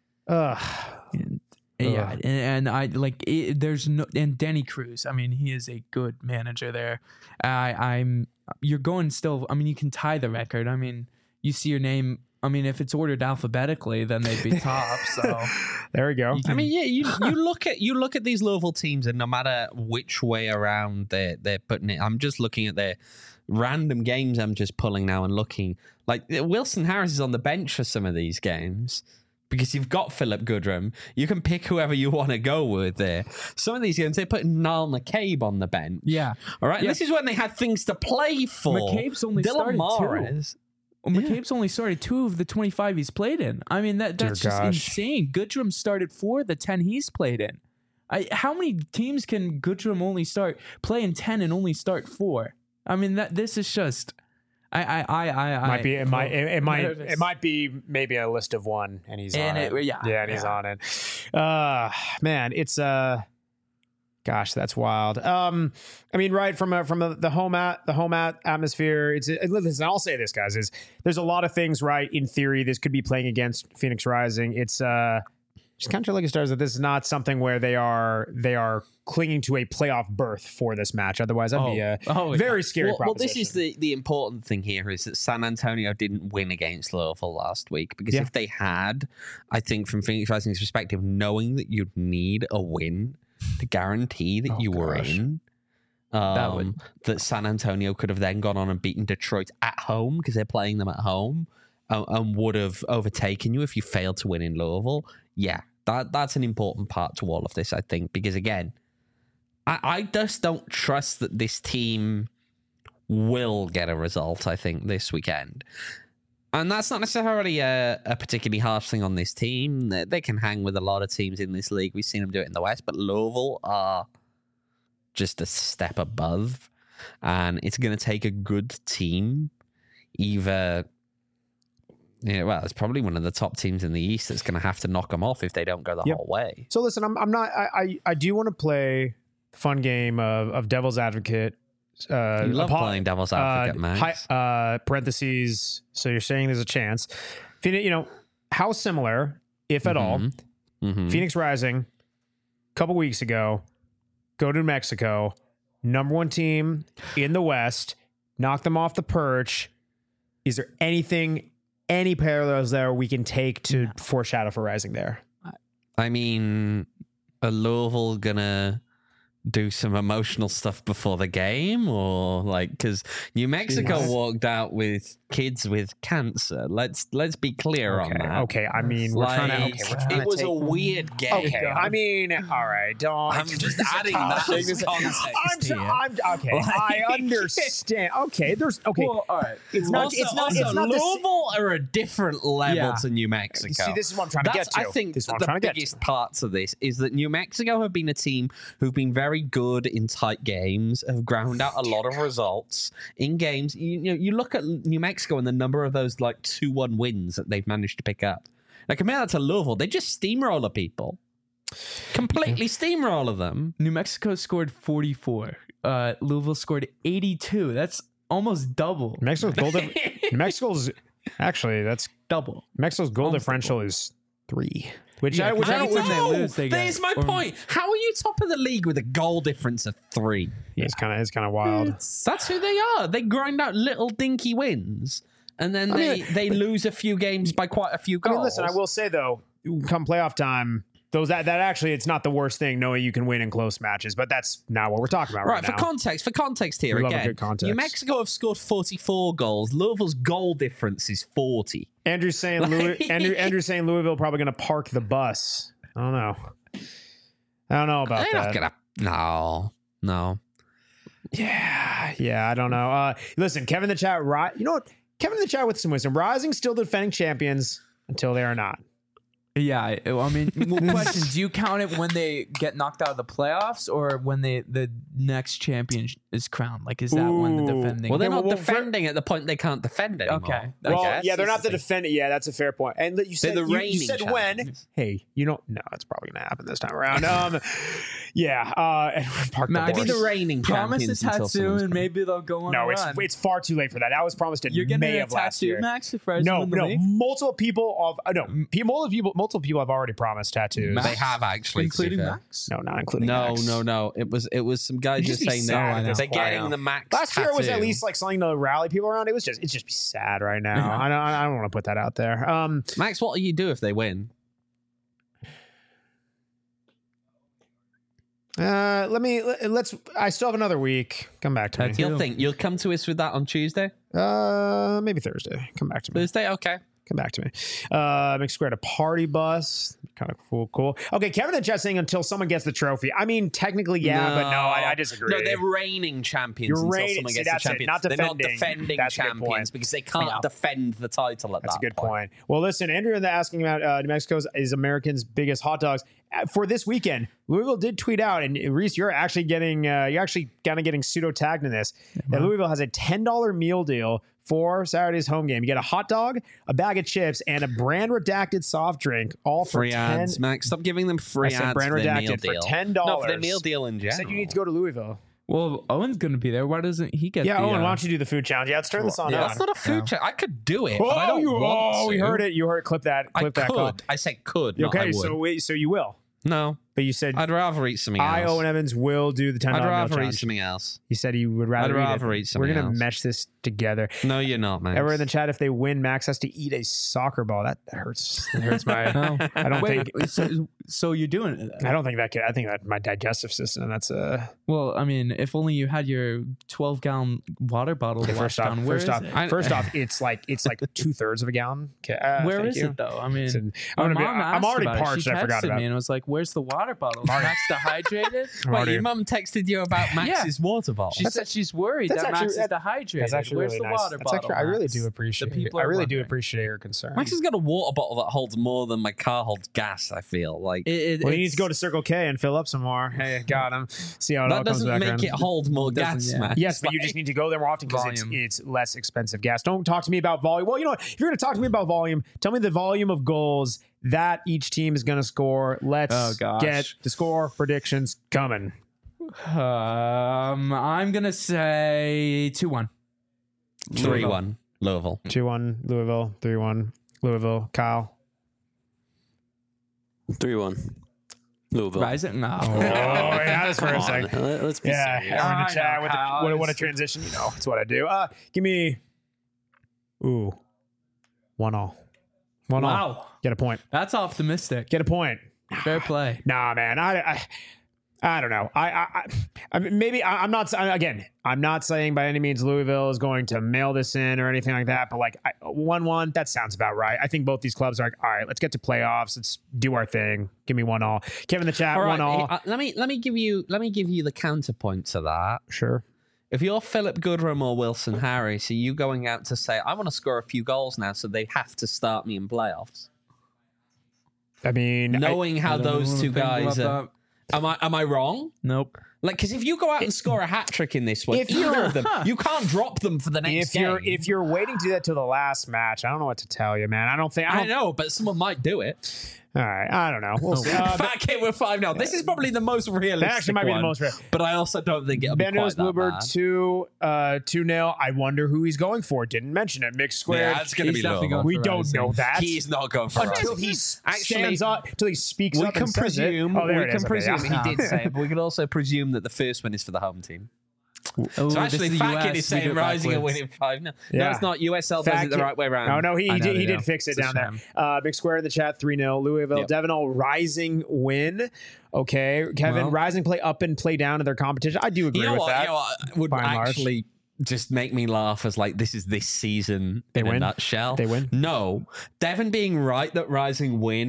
Yeah, and I like there's no, and Danny Cruz. I mean, he is a good manager there. You're going still. I mean, you can tie the record. I mean, you see your name. I mean, if it's ordered alphabetically, then they'd be top. So there we go. You look at these Louisville teams, and no matter which way around they're putting it, I'm just looking at their random games. I'm just pulling now and looking. Like Wilson Harris is on the bench for some of these games. Because you've got Philip Goodrum. You can pick whoever you want to go with there. Some of these games, they put Niall McCabe on the bench. Yeah. All right. Yeah. This is when they had things to play for. McCabe's only started 2. Well, McCabe's only started 2 of the 25 he's played in. I mean, that's just insane. Goodrum started 4 of the 10 he's played in. How many teams can Goodrum only play in 10 and only start 4? I mean, this is just... It might be maybe a list of 1, and he's on it. And he's on it. Man, it's gosh, that's wild. I mean, right from the home atmosphere. Listen, I'll say this, guys, is there's a lot of things, right? In theory, this could be playing against Phoenix Rising. It's just kind of like stars that this is not something where they are clinging to a playoff berth for this match. Otherwise, that'd be a very scary proposition. Well, this is the important thing here is that San Antonio didn't win against Louisville last week, because if they had, I think from Phoenix Rising's perspective, knowing that you'd need a win to guarantee that you were in, that San Antonio could have then gone on and beaten Detroit at home because they're playing them at home, and would have overtaken you if you failed to win in Louisville. Yeah, that's an important part to all of this, I think, because again, I just don't trust that this team will get a result, I think, this weekend. And that's not necessarily a particularly harsh thing on this team. They can hang with a lot of teams in this league. We've seen them do it in the West, but Louisville are just a step above. And it's going to take a good team, either... Yeah, well, it's probably one of the top teams in the East that's going to have to knock them off if they don't go the whole way. So listen, I'm not. I do want to play the fun game of Devil's Advocate. You love playing Devil's Advocate, Max. Parentheses. So you're saying there's a chance. How similar, if at all, Phoenix Rising, a couple weeks ago, go to New Mexico, number 1 team in the West, knock them off the perch. Is there any parallels there we can take to foreshadow for Rising there? I mean, are Louisville gonna do some emotional stuff before the game, or because New Mexico walked out with kids with cancer? Let's be clear on that. Okay, I mean, it was a weird game. Okay, I mean, all right, don't. I'm just adding that context here. I understand. Okay, there's Well, all right. It's not. Louisville are a different level to New Mexico. See, this is what I'm trying to get to. I think the biggest parts of this is that New Mexico have been a team who've been very good in tight games, have ground out a lot of results in games. You look at New Mexico and the number of those 2-1 wins that they've managed to pick up. Compare that to Louisville, they just steamroller people. Completely steamroller them. New Mexico scored 44. Louisville scored 82. That's almost double. Mexico's actually, that's double. Mexico's goal differential is 3. Which I don't when they lose. There's my point. How are you top of the league with a goal difference of 3? Yeah, it's kind of wild. That's who they are. They grind out little dinky wins, and then they lose a few games by quite a few goals. I mean, listen, I will say though, come playoff time, that actually, it's not the worst thing knowing you can win in close matches, but that's not what we're talking about right now. For context here again, New Mexico have scored 44 goals. Louisville's goal difference is 40. Andrew's saying Andrew's saying Louisville probably going to park the bus. I don't know about that. No. Yeah, I don't know. Listen, Kevin in the chat, you know what? Kevin in the chat with some wisdom. Rising still the defending champions until they are not. Yeah, I mean, question: do you count it when they get knocked out of the playoffs, or when the next champion is crowned? Like, is that when the defending? Well, they're Okay, not well, defending at the point they can't defend anymore. Okay. I Well, guess. yeah, they're not the This is defending. Yeah, that's a fair point. And you said the you reigning said when. champions. Hey, you don't. No, it's probably gonna happen this time around. Yeah. Park the Maybe Maybe horse. the reigning Promise champions a until tattoo, someone's and crowned. maybe they'll go on. No, a it's run. far too late for that. That was promised in You're getting May a of last tattoo, year. Max. If Rise No, win the no. league? Multiple people multiple people have already promised tattoos. They have actually, including to be fair. Max. No, not including No, Max. no. It was some guys It'd just just be saying sad at that this they're point. getting the Max. Last year was at tattoo. least like something to rally people around. It's just be sad right now. Yeah. I don't want to put that out there. Max. What do you do if they win? Let's. I still have another week. Come back to me. Tattoo. You'll come to us with that on Tuesday, Maybe Thursday. Come back to me. Thursday. Okay. Come back to me. Make Square a party bus. Kind of cool. Okay, Kevin in chat saying until someone gets the trophy. I mean, technically, yeah, but no, I disagree. No, they're reigning champions You're until reigning- someone see, gets the that's it, champion. not They're not defending. defending That's a good point. champions because they can't defend the title at That's that a good point. Well, listen, Andrew in the asking about New Mexico's is Americans' biggest hot dogs for this weekend. Louisville did tweet out, and Reese, you're actually getting pseudo tagged in this. That Louisville has a $10 meal deal for Saturday's home game. You get a hot dog, a bag of chips, and a brand redacted soft drink, all for free 10. ads, Max. Stop giving them free I said ads brand for their redacted meal for deal. $10. No, for their meal deal in general. Said you need to go to Louisville. Well, Owen's gonna be there. Why doesn't he get? Yeah, the, Owen, why don't you do the food challenge? Yeah, let's turn this on. Yeah. That's not a food check. I could do it, but I Oh, don't want we to. heard it. You heard it. Clip that. I Clip that. call. could. I said could. Not I Okay, would. so you will. No, But you said I'd rather eat something else. Owen Evans will do the $10 I'd meal rather eat challenge. something else. He said he would rather, I'd rather eat We're something gonna else. mesh this together. No, you're not, Max. Ever in the chat, if they win, Max has to eat a soccer ball. That hurts. It hurts my. No. I don't Wait, think. so you're doing it? I don't think that could. I think that my digestive system. That's a. Well, I mean, if only you had your 12-gallon water bottle to wash First off, down. Where is it? I- it's like 2/3 of a gallon. Okay, Where thank is you. it though? I mean, Listen, my I'm mom already asked about it. parched. She I forgot texted about me it. and was like, "Where's the water bottle? Is Max dehydrated?" Wait, your mum texted you about Max's water bottle? She said she's worried that's that Max actually- is dehydrated. That's actually Where's really the nice. water That's bottle? actually, I really Max? do appreciate. The people I are really do wondering. appreciate your concern. Max has got a water bottle that holds more than my car holds gas. I feel like Well, you need to it's- go to Circle K and fill up some more. Hey, got him. See how it all that comes doesn't back make around. it hold more gas, Doesn't, yeah. Max. Yes, but you just need to go there more often because Volume. it's less expensive gas. Don't talk to me about volume. Well, you know what? If you're going to talk to me about volume, tell me the volume of goals that each team is going to score. Let's Oh, gosh. get the score predictions coming. I'm gonna say 2-1. 3-1 Louisville. 2-1 Louisville, 3-1 Louisville. Kyle. 3-1. Louisville. Rising? No. Oh, yeah, that's for a Come second. on, let's be Yeah, serious. we're in the I chat know, with Kyle. what a transition. You know, that's what I do. Give me, 1-all. 1-all. Wow, Get a point. that's optimistic. Get a point. Fair play. Nah, man. I don't know. I mean, maybe I'm not. Again, I'm not saying by any means Louisville is going to mail this in or anything like that. But like 1-1, that sounds about right. I think both these clubs are like, all right, let's get to playoffs. Let's do our thing. Give me 1-all. Kevin in the chat, All right, 1-all. let me give you the counterpoint to that. Sure. If you're Philip Goodrum or Wilson Harris, are you going out to say, I want to score a few goals now, so they have to start me in playoffs? I mean, Knowing how I don't those wanna two think about guys are. Am I wrong? Nope. Like, because if you go out and score a hat trick in this one, If either you're- of them, you can't drop them for the next game. if you're waiting to do that till the last match, I don't know what to tell you, man. I don't think. I know, but someone might do it. All right, I don't know. We'll see. Fat Kid with 5-0. This is probably the most realistic. That actually might be the one, most real. But I also don't think it'll be Bendo's quite that Bluebird bad. 2-0. I wonder who he's going for. Didn't mention it. Mixed squared. Yeah, it's going to He's be definitely Louisville. going We for don't Rising. know that He's not going for until us. he Actually, stands up. Until he speaks We up can and says it. presume. Oh, there We it can is. Okay, presume yeah. he did say it, but we could also presume that the first one is for the home team. Oh, So actually, this Fat US, Kid is we do saying it Rising and backwards. winning 5-0. No, Yeah. it's not. USL Fat does it the Kid- right way around. Oh no, he I know did. they He do. did fix it It's a down there. shame. Big square in the chat. 3-0 Louisville. Yep. Devon Rising win. Okay, Kevin. Well- Rising play up and play down in their competition. I do agree You know with what? that. You know what would by and large. actually just make me laugh as like this is this season They in win? a nutshell. They win? No, Devon being right that Rising win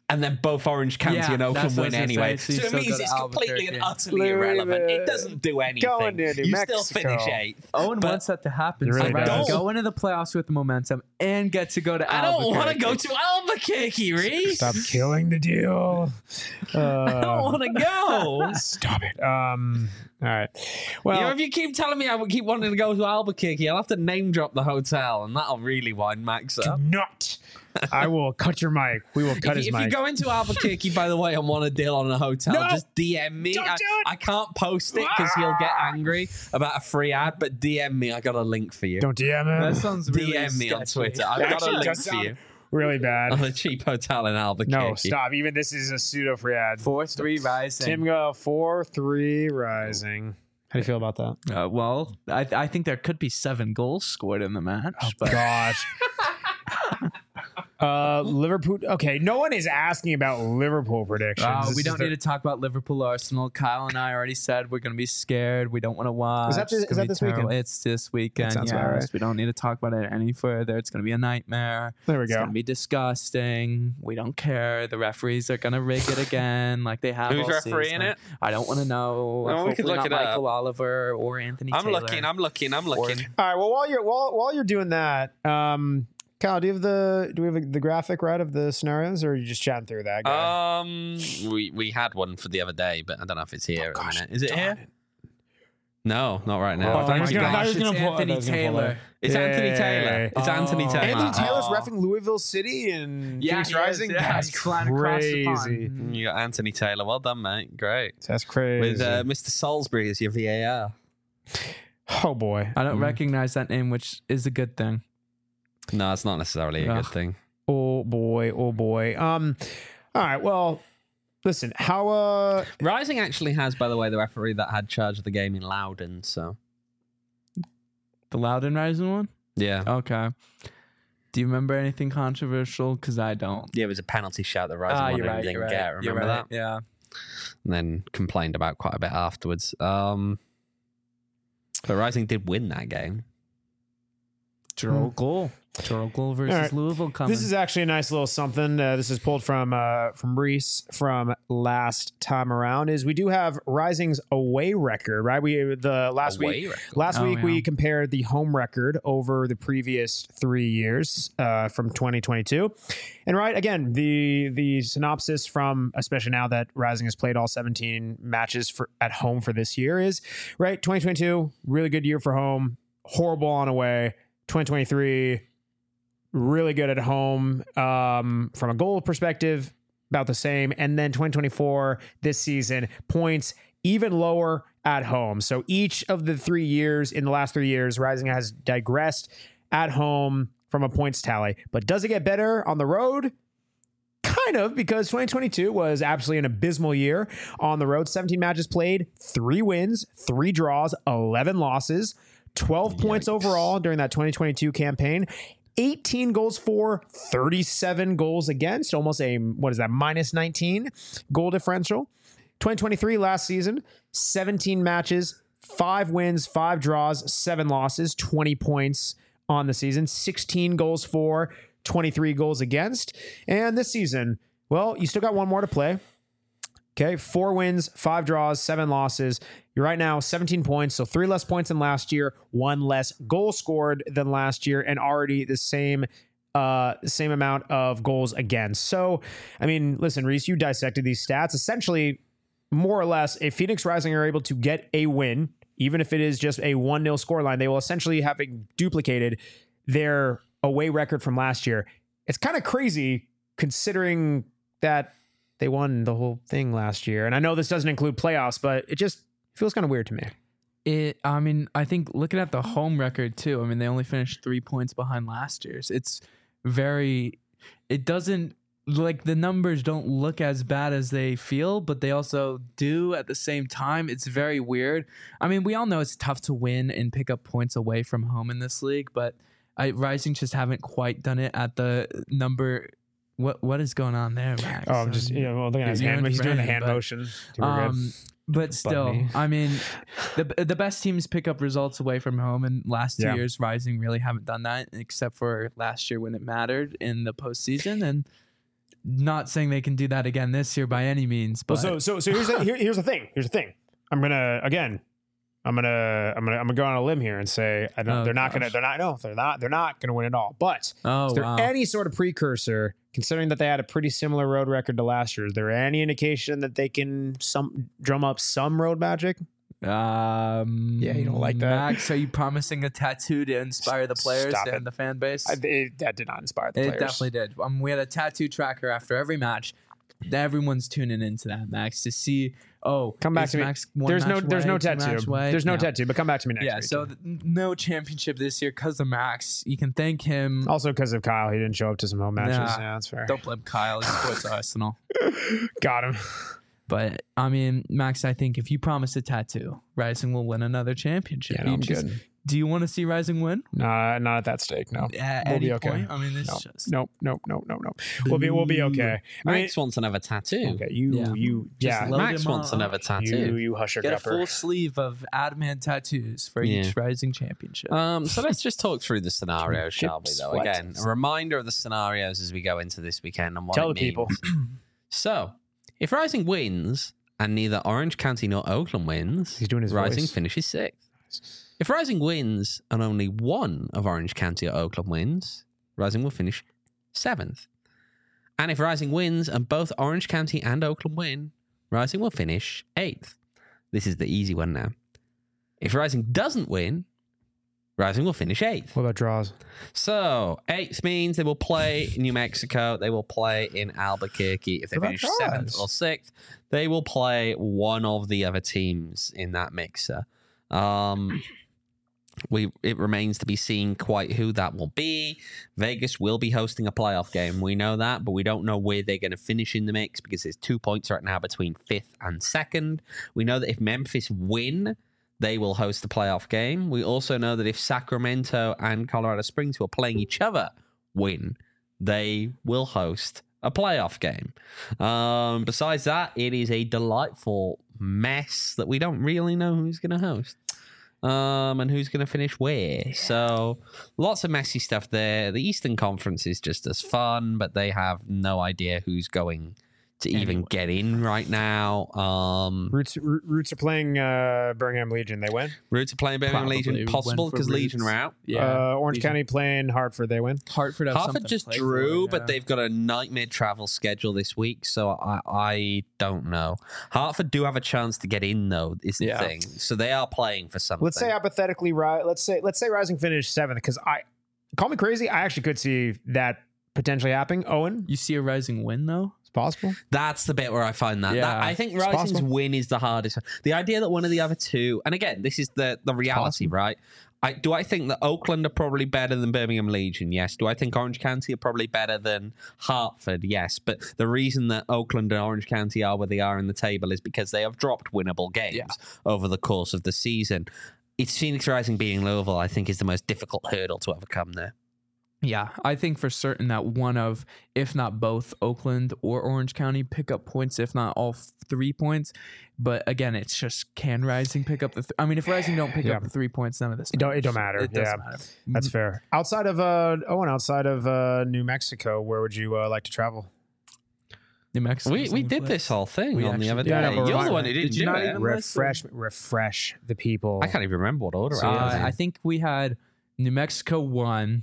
and then both Orange County Yeah, and that's Oakland what I win was gonna anyway. say, so So you it still means go it's to completely and Albuquerque. utterly irrelevant. It doesn't do anything. Going to New You still Mexico. finish 8th. Owen But wants that to happen. He really so does. go into the playoffs with momentum and get to go to I don't want to Albuquerque. go to Albuquerque, Reese. Stop killing the deal. I don't want to go. Stop it. All right. Well, If you keep telling me I would keep wanting to go to Albuquerque, I'll have to name drop the hotel, and that'll really wind Max do up. not. I will cut your mic. We will cut his If mic. you go into Albuquerque, by the way, and want a deal on a hotel, No! just DM me. Don't do it! I can't post it because he'll get angry about a free ad, but DM me. I got a link for you. Don't DM That him. sounds really DM me on sketchy. Twitter. I've got a Actually, link does for sound you really on bad. a cheap hotel in Albuquerque. No, stop. Even this is a pseudo free ad. 4-3 Rising. Tim go 4-3 Rising. How do you feel about that? Well, I think there could be 7 goals scored in the match. But Gosh. Liverpool. Okay, no one is asking about Liverpool predictions. This we is don't the- need to talk about Liverpool Arsenal. Kyle and I already said we're going to be scared. We don't want to watch. that this- It's is gonna that be this terrible. weekend? It's this weekend. sounds Yes. about right. We don't need to talk about it any further. It's going to be a nightmare. There we It's go. going to be disgusting. We don't care. The referees are going to rig it again like they have Who's all refereeing season. it? I don't want to know. Well, we could Hopefully look not it up. Michael Oliver or Anthony I'm Taylor. looking. I'm looking. All right. Well, while you're doing that, Kyle, do we have the graphic right of the scenarios, or are you just chatting through that guy? We had one for the other day, but I don't know if it's here Oh, at the minute. Is it here? No, not right Oh, now. I thought he was my gonna- I thought he gosh, was gonna it's pull- I thought he Anthony was gonna pull Taylor. it. It's Anthony Yay. Taylor. It's Anthony Oh. Taylor. Anthony Taylor's Oh. reffing Louisville City and Yeah, Phoenix he is, Rising. yeah. That's He's flying across the pond. crazy. You got Anthony Taylor. Well done, mate. Great. That's crazy. With Mr. Salisbury as your VAR. Oh boy. I don't recognize that name, which is a good thing. No, it's not necessarily a good Ugh. thing. Oh boy. Oh boy. All right. Well, listen. How? Rising actually has, by the way, the referee that had charge of the game in Loudon. So The Loudon Rising one? yeah, Okay. Do you remember anything controversial? Because I don't. yeah, it was a penalty shout that Rising You're won right. and didn't You're right. get. You're Remember right. that? Yeah. And then complained about quite a bit afterwards. But Rising did win that game. Gerald Goal. Gerald Goal versus All right. Louisville coming. This is actually a nice little something. This is pulled from Reese from last time around. Is we do have Rising's away record, right? Last Away week. record. Last Oh, week yeah. we compared the home record over the previous 3 years from 2022, and right again the synopsis from, especially now that Rising has played all 17 matches at home for this year, is right. 2022 really good year for home, horrible on away. 2023 really good at home. From a goal perspective, about the same, and then 2024 this season points even lower at home. So each of the 3 years, in the last 3 years, Rising has digressed at home from a points tally. But does it get better on the road? Kind of, because 2022 was absolutely an abysmal year on the road. 17 matches played, 3 wins, 3 draws, 11 losses, 12 points overall during that 2022 campaign. 18 goals for, 37 goals against, almost a, minus 19 goal differential. 2023 last season, 17 matches, 5 wins, 5 draws, 7 losses, 20 points on the season, 16 goals for, 23 goals against. And this season, well, you still got one more to play. Okay, 4 wins, 5 draws, 7 losses. You're right now 17 points, so 3 less points than last year, 1 less goal scored than last year, and already the same amount of goals against. So, I mean, listen, Reese, you dissected these stats. Essentially, more or less, if Phoenix Rising are able to get a win, even if it is just a 1-0 scoreline, they will essentially have duplicated their away record from last year. It's kind of crazy considering that they won the whole thing last year. And I know this doesn't include playoffs, but it just feels kind of weird to me. I think looking at the home record too, I mean, they only finished 3 points behind last year's. It doesn't, like, the numbers don't look as bad as they feel, but they also do at the same time. It's very weird. I mean, we all know it's tough to win and pick up points away from home in this league, but Rising just haven't quite done it at the number. What is going on there, Max? Oh, I'm just, looking at his hand. He's doing the hand motion. But still, me. I mean, the best teams pick up results away from home, and last 2 Yeah. years, Rising really haven't done that, except for last year when it mattered in the postseason. And Not saying they can do that again this year by any means, but Well, so here's the thing. Here's the thing. I'm gonna go on a limb here and say they're not gonna win it all. But is there any sort of precursor, considering that they had a pretty similar road record to last year? Is there any indication that they can drum up some road magic? Yeah, you don't like that. Max, are you promising a tattoo to inspire the players Stop it. and the fan base? That did not inspire the It players. definitely did. We had a tattoo tracker after every match. Everyone's tuning into that, Max, to see. Oh, Come back is to me. Max one There's no match away, two tattoo. match away? There's no Yeah. tattoo. But come back to me next Yeah, week. so no championship this year because of Max. You can thank him. Also because of Kyle, he didn't show up to some home matches. Nah, Yeah, that's fair. Don't blame Kyle. He supports Arsenal. Got him. But I mean, Max, I think if you promise a tattoo, Rising will win another championship. Yeah, no, I'm good. Do you want to see Rising win? Not at that stake. No, At we'll any be okay. point? I mean, it's No, just no. We'll be okay. I mean, Max wants another tattoo. okay, Yeah. Just load Max him wants up. another tattoo. you hush your Get a gupper. full sleeve of adamant tattoos for Yeah. each Rising championship. So let's just talk through the scenarios, shall we? Though Sweat. again, a reminder of the scenarios as we go into this weekend and what Tell it the people. means. So, if Rising wins and neither Orange County nor Oakland wins, He's doing his Rising voice. finishes 6th. If Rising wins and only one of Orange County or Oakland wins, Rising will finish 7th. And if Rising wins and both Orange County and Oakland win, Rising will finish 8th. This is the easy one now. If Rising doesn't win, Rising will finish 8th. What about draws? So 8th means they will play New Mexico. They will play in Albuquerque. If they What finish about 7th draws? or 6th, they will play one of the other teams in that mixer. It remains to be seen quite who that will be. Vegas will be hosting a playoff game. We know that, but we don't know where they're going to finish in the mix because there's 2 points right now between 5th and 2nd. We know that if Memphis win, they will host the playoff game. We also know that if Sacramento and Colorado Springs, who are playing each other, win, they will host a playoff game. Besides that, it is a delightful mess that we don't really know who's going to host. And who's going to finish where. So lots of messy stuff there. The Eastern Conference is just as fun, but they have no idea who's going to even get in right now. Roots are playing Birmingham Legion. They win. Roots are playing Birmingham Probably Legion. win Possible for because Legion Roots. are out. Orange Legion. County playing Hartford. They win. Hartford have something Hartford to just play drew, for, but yeah. they've got a nightmare travel schedule this week, so I don't know. Hartford do have a chance to get in, though, is the Yeah. thing. So they are playing for something. Let's say hypothetically, let's say Rising finished 7th, because call me crazy, I actually could see that potentially happening. Owen, You see a Rising win though? it's possible. That's the bit where I find that. Yeah. I think It's Rising's possible. win is the hardest. The idea that one of the other two, and again, this is the reality, right? Do I think that Oakland are probably better than Birmingham Legion? Yes. Do I think Orange County are probably better than Hartford? Yes. But the reason that Oakland and Orange County are where they are in the table is because they have dropped winnable games over the course of the season. It's Phoenix Rising beating Louisville, I think, is the most difficult hurdle to overcome there. Yeah, I think for certain that one of, if not both, Oakland or Orange County pick up points, if not all 3 points. But again, it's just can Rising pick up the? I mean, if Rising don't pick up the 3 points, none of this. It don't matters. matter. It doesn't Yeah. matter. That's fair. Outside of Owen, outside of New Mexico, where would you like to travel? New Mexico. We did this whole thing We on the other actually day. did. Yeah, but You're the remind- one who didn't Did you do not it. even- Refresh the people. I can't even remember what order I was in. I think we had New Mexico 1.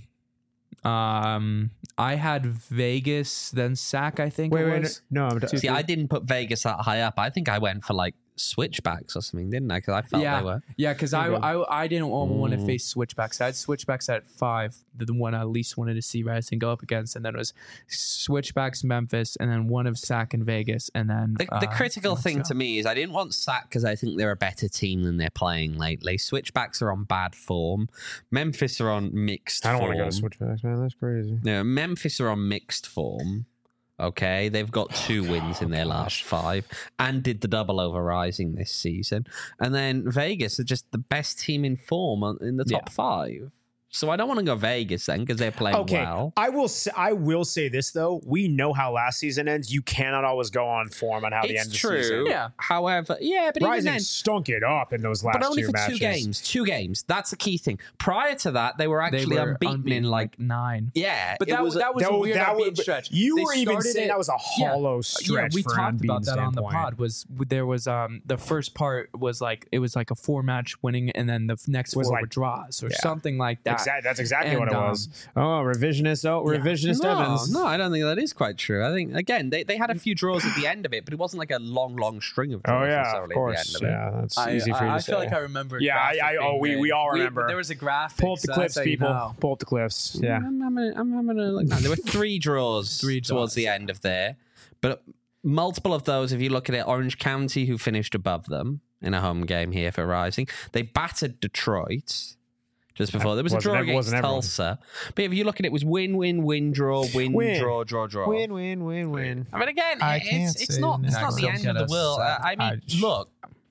I had Vegas, then Sac. I think. it was. no. See, I didn't put Vegas that high up. I think I went for like switchbacks or something, didn't I? Because I felt they were. Yeah, because I didn't want to Mm. face switchbacks. I had switchbacks at 5, the one I least wanted to see Rising go up against, and then it was switchbacks Memphis, and then one of Sac and Vegas, and then The critical let's thing go. to me is I didn't want Sac because I think they're a better team than they're playing lately. Switchbacks are on bad form. Memphis are on mixed I don't form. want to go to Switchbacks, man. That's crazy. No, Memphis are on mixed form. Okay, they've got 2 wins in their last 5 and did the double over Rising this season. And then Vegas are just the best team in form in the top 5. So I don't want to go Vegas then because they're playing well. I will say this though. We know how last season ends. You cannot always go on form on how the end of the season. Yeah. However, but Rising even then, stunk it up in those last but only two for matches. 2 games. That's the key thing. Prior to that, they were actually unbeaten in like 9. Yeah, But that was a weird unbeaten stretch. You They were even started saying it- that was a hollow stretch. we for an talked unbeaten about that on the standpoint. pod. There was the first part was like it was like a 4-match winning, and then the next Was 4 like- were draws or yeah. something like that. That's exactly what it And, was. Revisionist Evans. No, I don't think that is quite true. I think again they had a few draws at the end of it, but it wasn't like a long string of draws. Oh yeah, necessarily of course. At the end of it. Yeah, that's easy for you to I say. feel like I remember. Yeah, we all remember. There was a graphic. Pull up the so clips, that's how you people. know. Pull up the clips. Yeah. I'm gonna look now. There were 3 draws towards the end of there, but multiple of those, if you look at it, Orange County, who finished above them in a home game here for Rising, they battered Detroit just before. There was a draw against Tulsa. But if you look at it, it was win, draw, draw. Win. I mean, again, I can't it's say not next. the end of the world. I mean, look.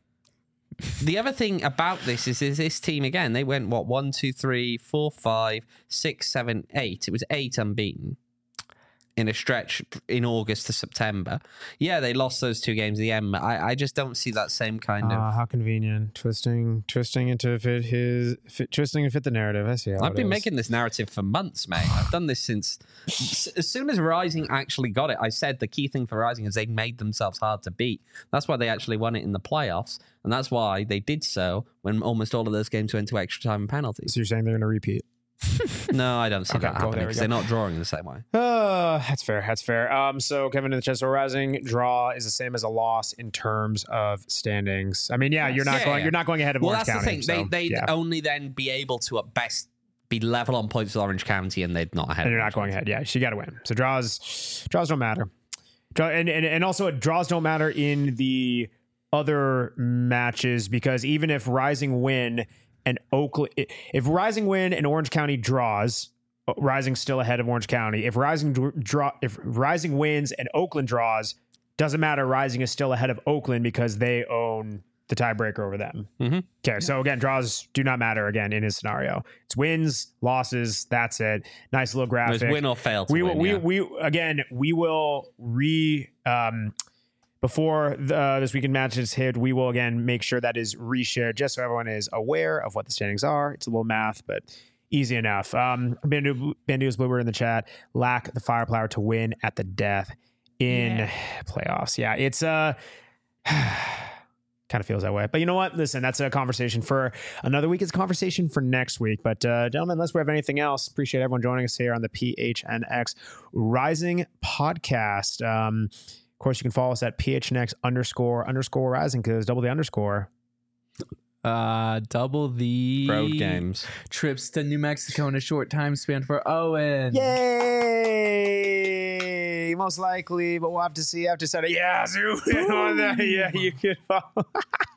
The other thing about this is this team again. They went 1, 2, 3, 4, 5, 6, 7, 8. It was 8 unbeaten in a stretch in August to September. Yeah, they lost those 2 games at the end. I just don't see that same kind of. How convenient. Twisting into twisting to fit the narrative. I see how I've been making this narrative for months, mate. I've done this since as soon as Rising actually got it. I said the key thing for Rising is they made themselves hard to beat. That's why they actually won it in the playoffs, and that's why they did so when almost all of those games went to extra time and penalties. So you're saying they're going to repeat? No, I don't see that cool, happening because they're not drawing the same way. That's fair. So Kevin in the chat, so Rising draw is the same as a loss in terms of standings. I mean, you're not going ahead of Orange Well, that's County. the thing. They'd only then be able to at best be level on points with Orange County, and they'd not ahead. And you're not going ahead. Yeah, so you got to win. So draws don't matter. And also draws don't matter in the other matches because even if Rising win and Oakland, if Rising win and Orange County draws, Rising's still ahead of Orange County. If Rising wins and Oakland draws, doesn't matter. Rising is still ahead of Oakland because they own the tiebreaker over them. Mm-hmm. Okay, so again, draws do not matter again in his scenario. It's wins, losses. That's it. Nice little graphic. There's win or fail. We will before this weekend matches hit, we will again make sure that is reshared just so everyone is aware of what the standings are. It's a little math, but easy enough. Bandu's Bluebird in the chat. Lack the firepower to win at the death in playoffs. Yeah, it's kind of feels that way. But you know what? Listen, that's a conversation for another week. It's a conversation for next week. But gentlemen, unless we have anything else, appreciate everyone joining us here on the PHNX Rising podcast. Of course, you can follow us at PHNX__Rising because double the underscore. Double the road games trips to New Mexico in a short time span for Owen. Yay! Most likely, but we'll have to see after Saturday. Yeah, zoom in on that. Yeah, you can follow.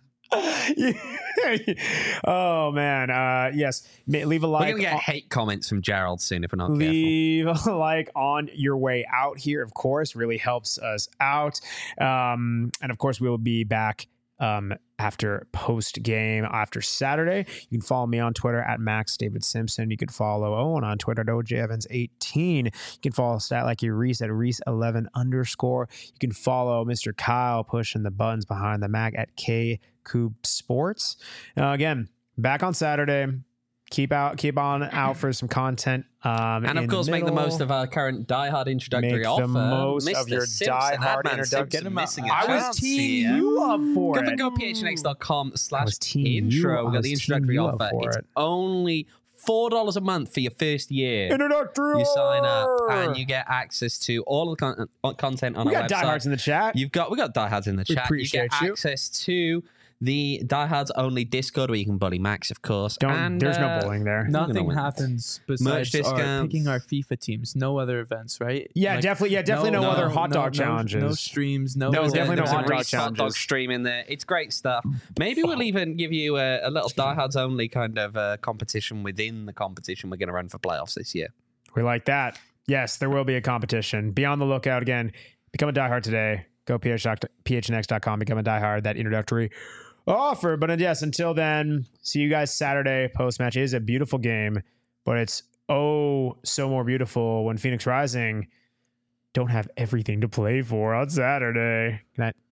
Oh man, yes. Leave a like. We're gonna get hate comments from Gerald soon if we're not careful. Leave a like on your way out here. Of course, really helps us out. And of course, we will be back after post game after Saturday. You can follow me on Twitter at Max David Simpson. You can follow Owen on Twitter at OJEvans18. You can follow Stat Like You Reese at Reese11_. You can follow Mr. Kyle pushing the buttons behind the Mac at K Coop Sports. Again, back on Saturday. Keep on out for some content. And of course, make the most of our current Die Hard introductory offer. Make the most Mr. of your Simpson, Die Hard Adman introduction. Simpson missing a I was chance teeing here. you up for it. Go phnx.com/intro. I We got was the introductory teeing you up offer. for It's it. only $4 a month for your first year. Introductory. You sign up and you get access to all of the content on We our got website. diehards in the chat. We got diehards in the We chat. appreciate you get you. access to the diehards only Discord where you can bully Max, of course. There's no bullying there. Nothing win. happens besides discounts. picking our FIFA teams. No other events, right? Yeah, definitely no other hot dog challenges. No streams. No, definitely no There's a hot dog Reese hot dog challenges. stream in there. It's great stuff. Maybe we'll even give you a little diehards only kind of competition within the competition we're going to run for playoffs this year. We like that. Yes, there will be a competition. Be on the lookout. Again, become a diehard today. Go phnx.com, become a diehard. That introductory offer. But yes, until then, see you guys Saturday. Post-match is a beautiful game. but it's so more beautiful when Phoenix Rising don't have everything to play for on Saturday. Good night.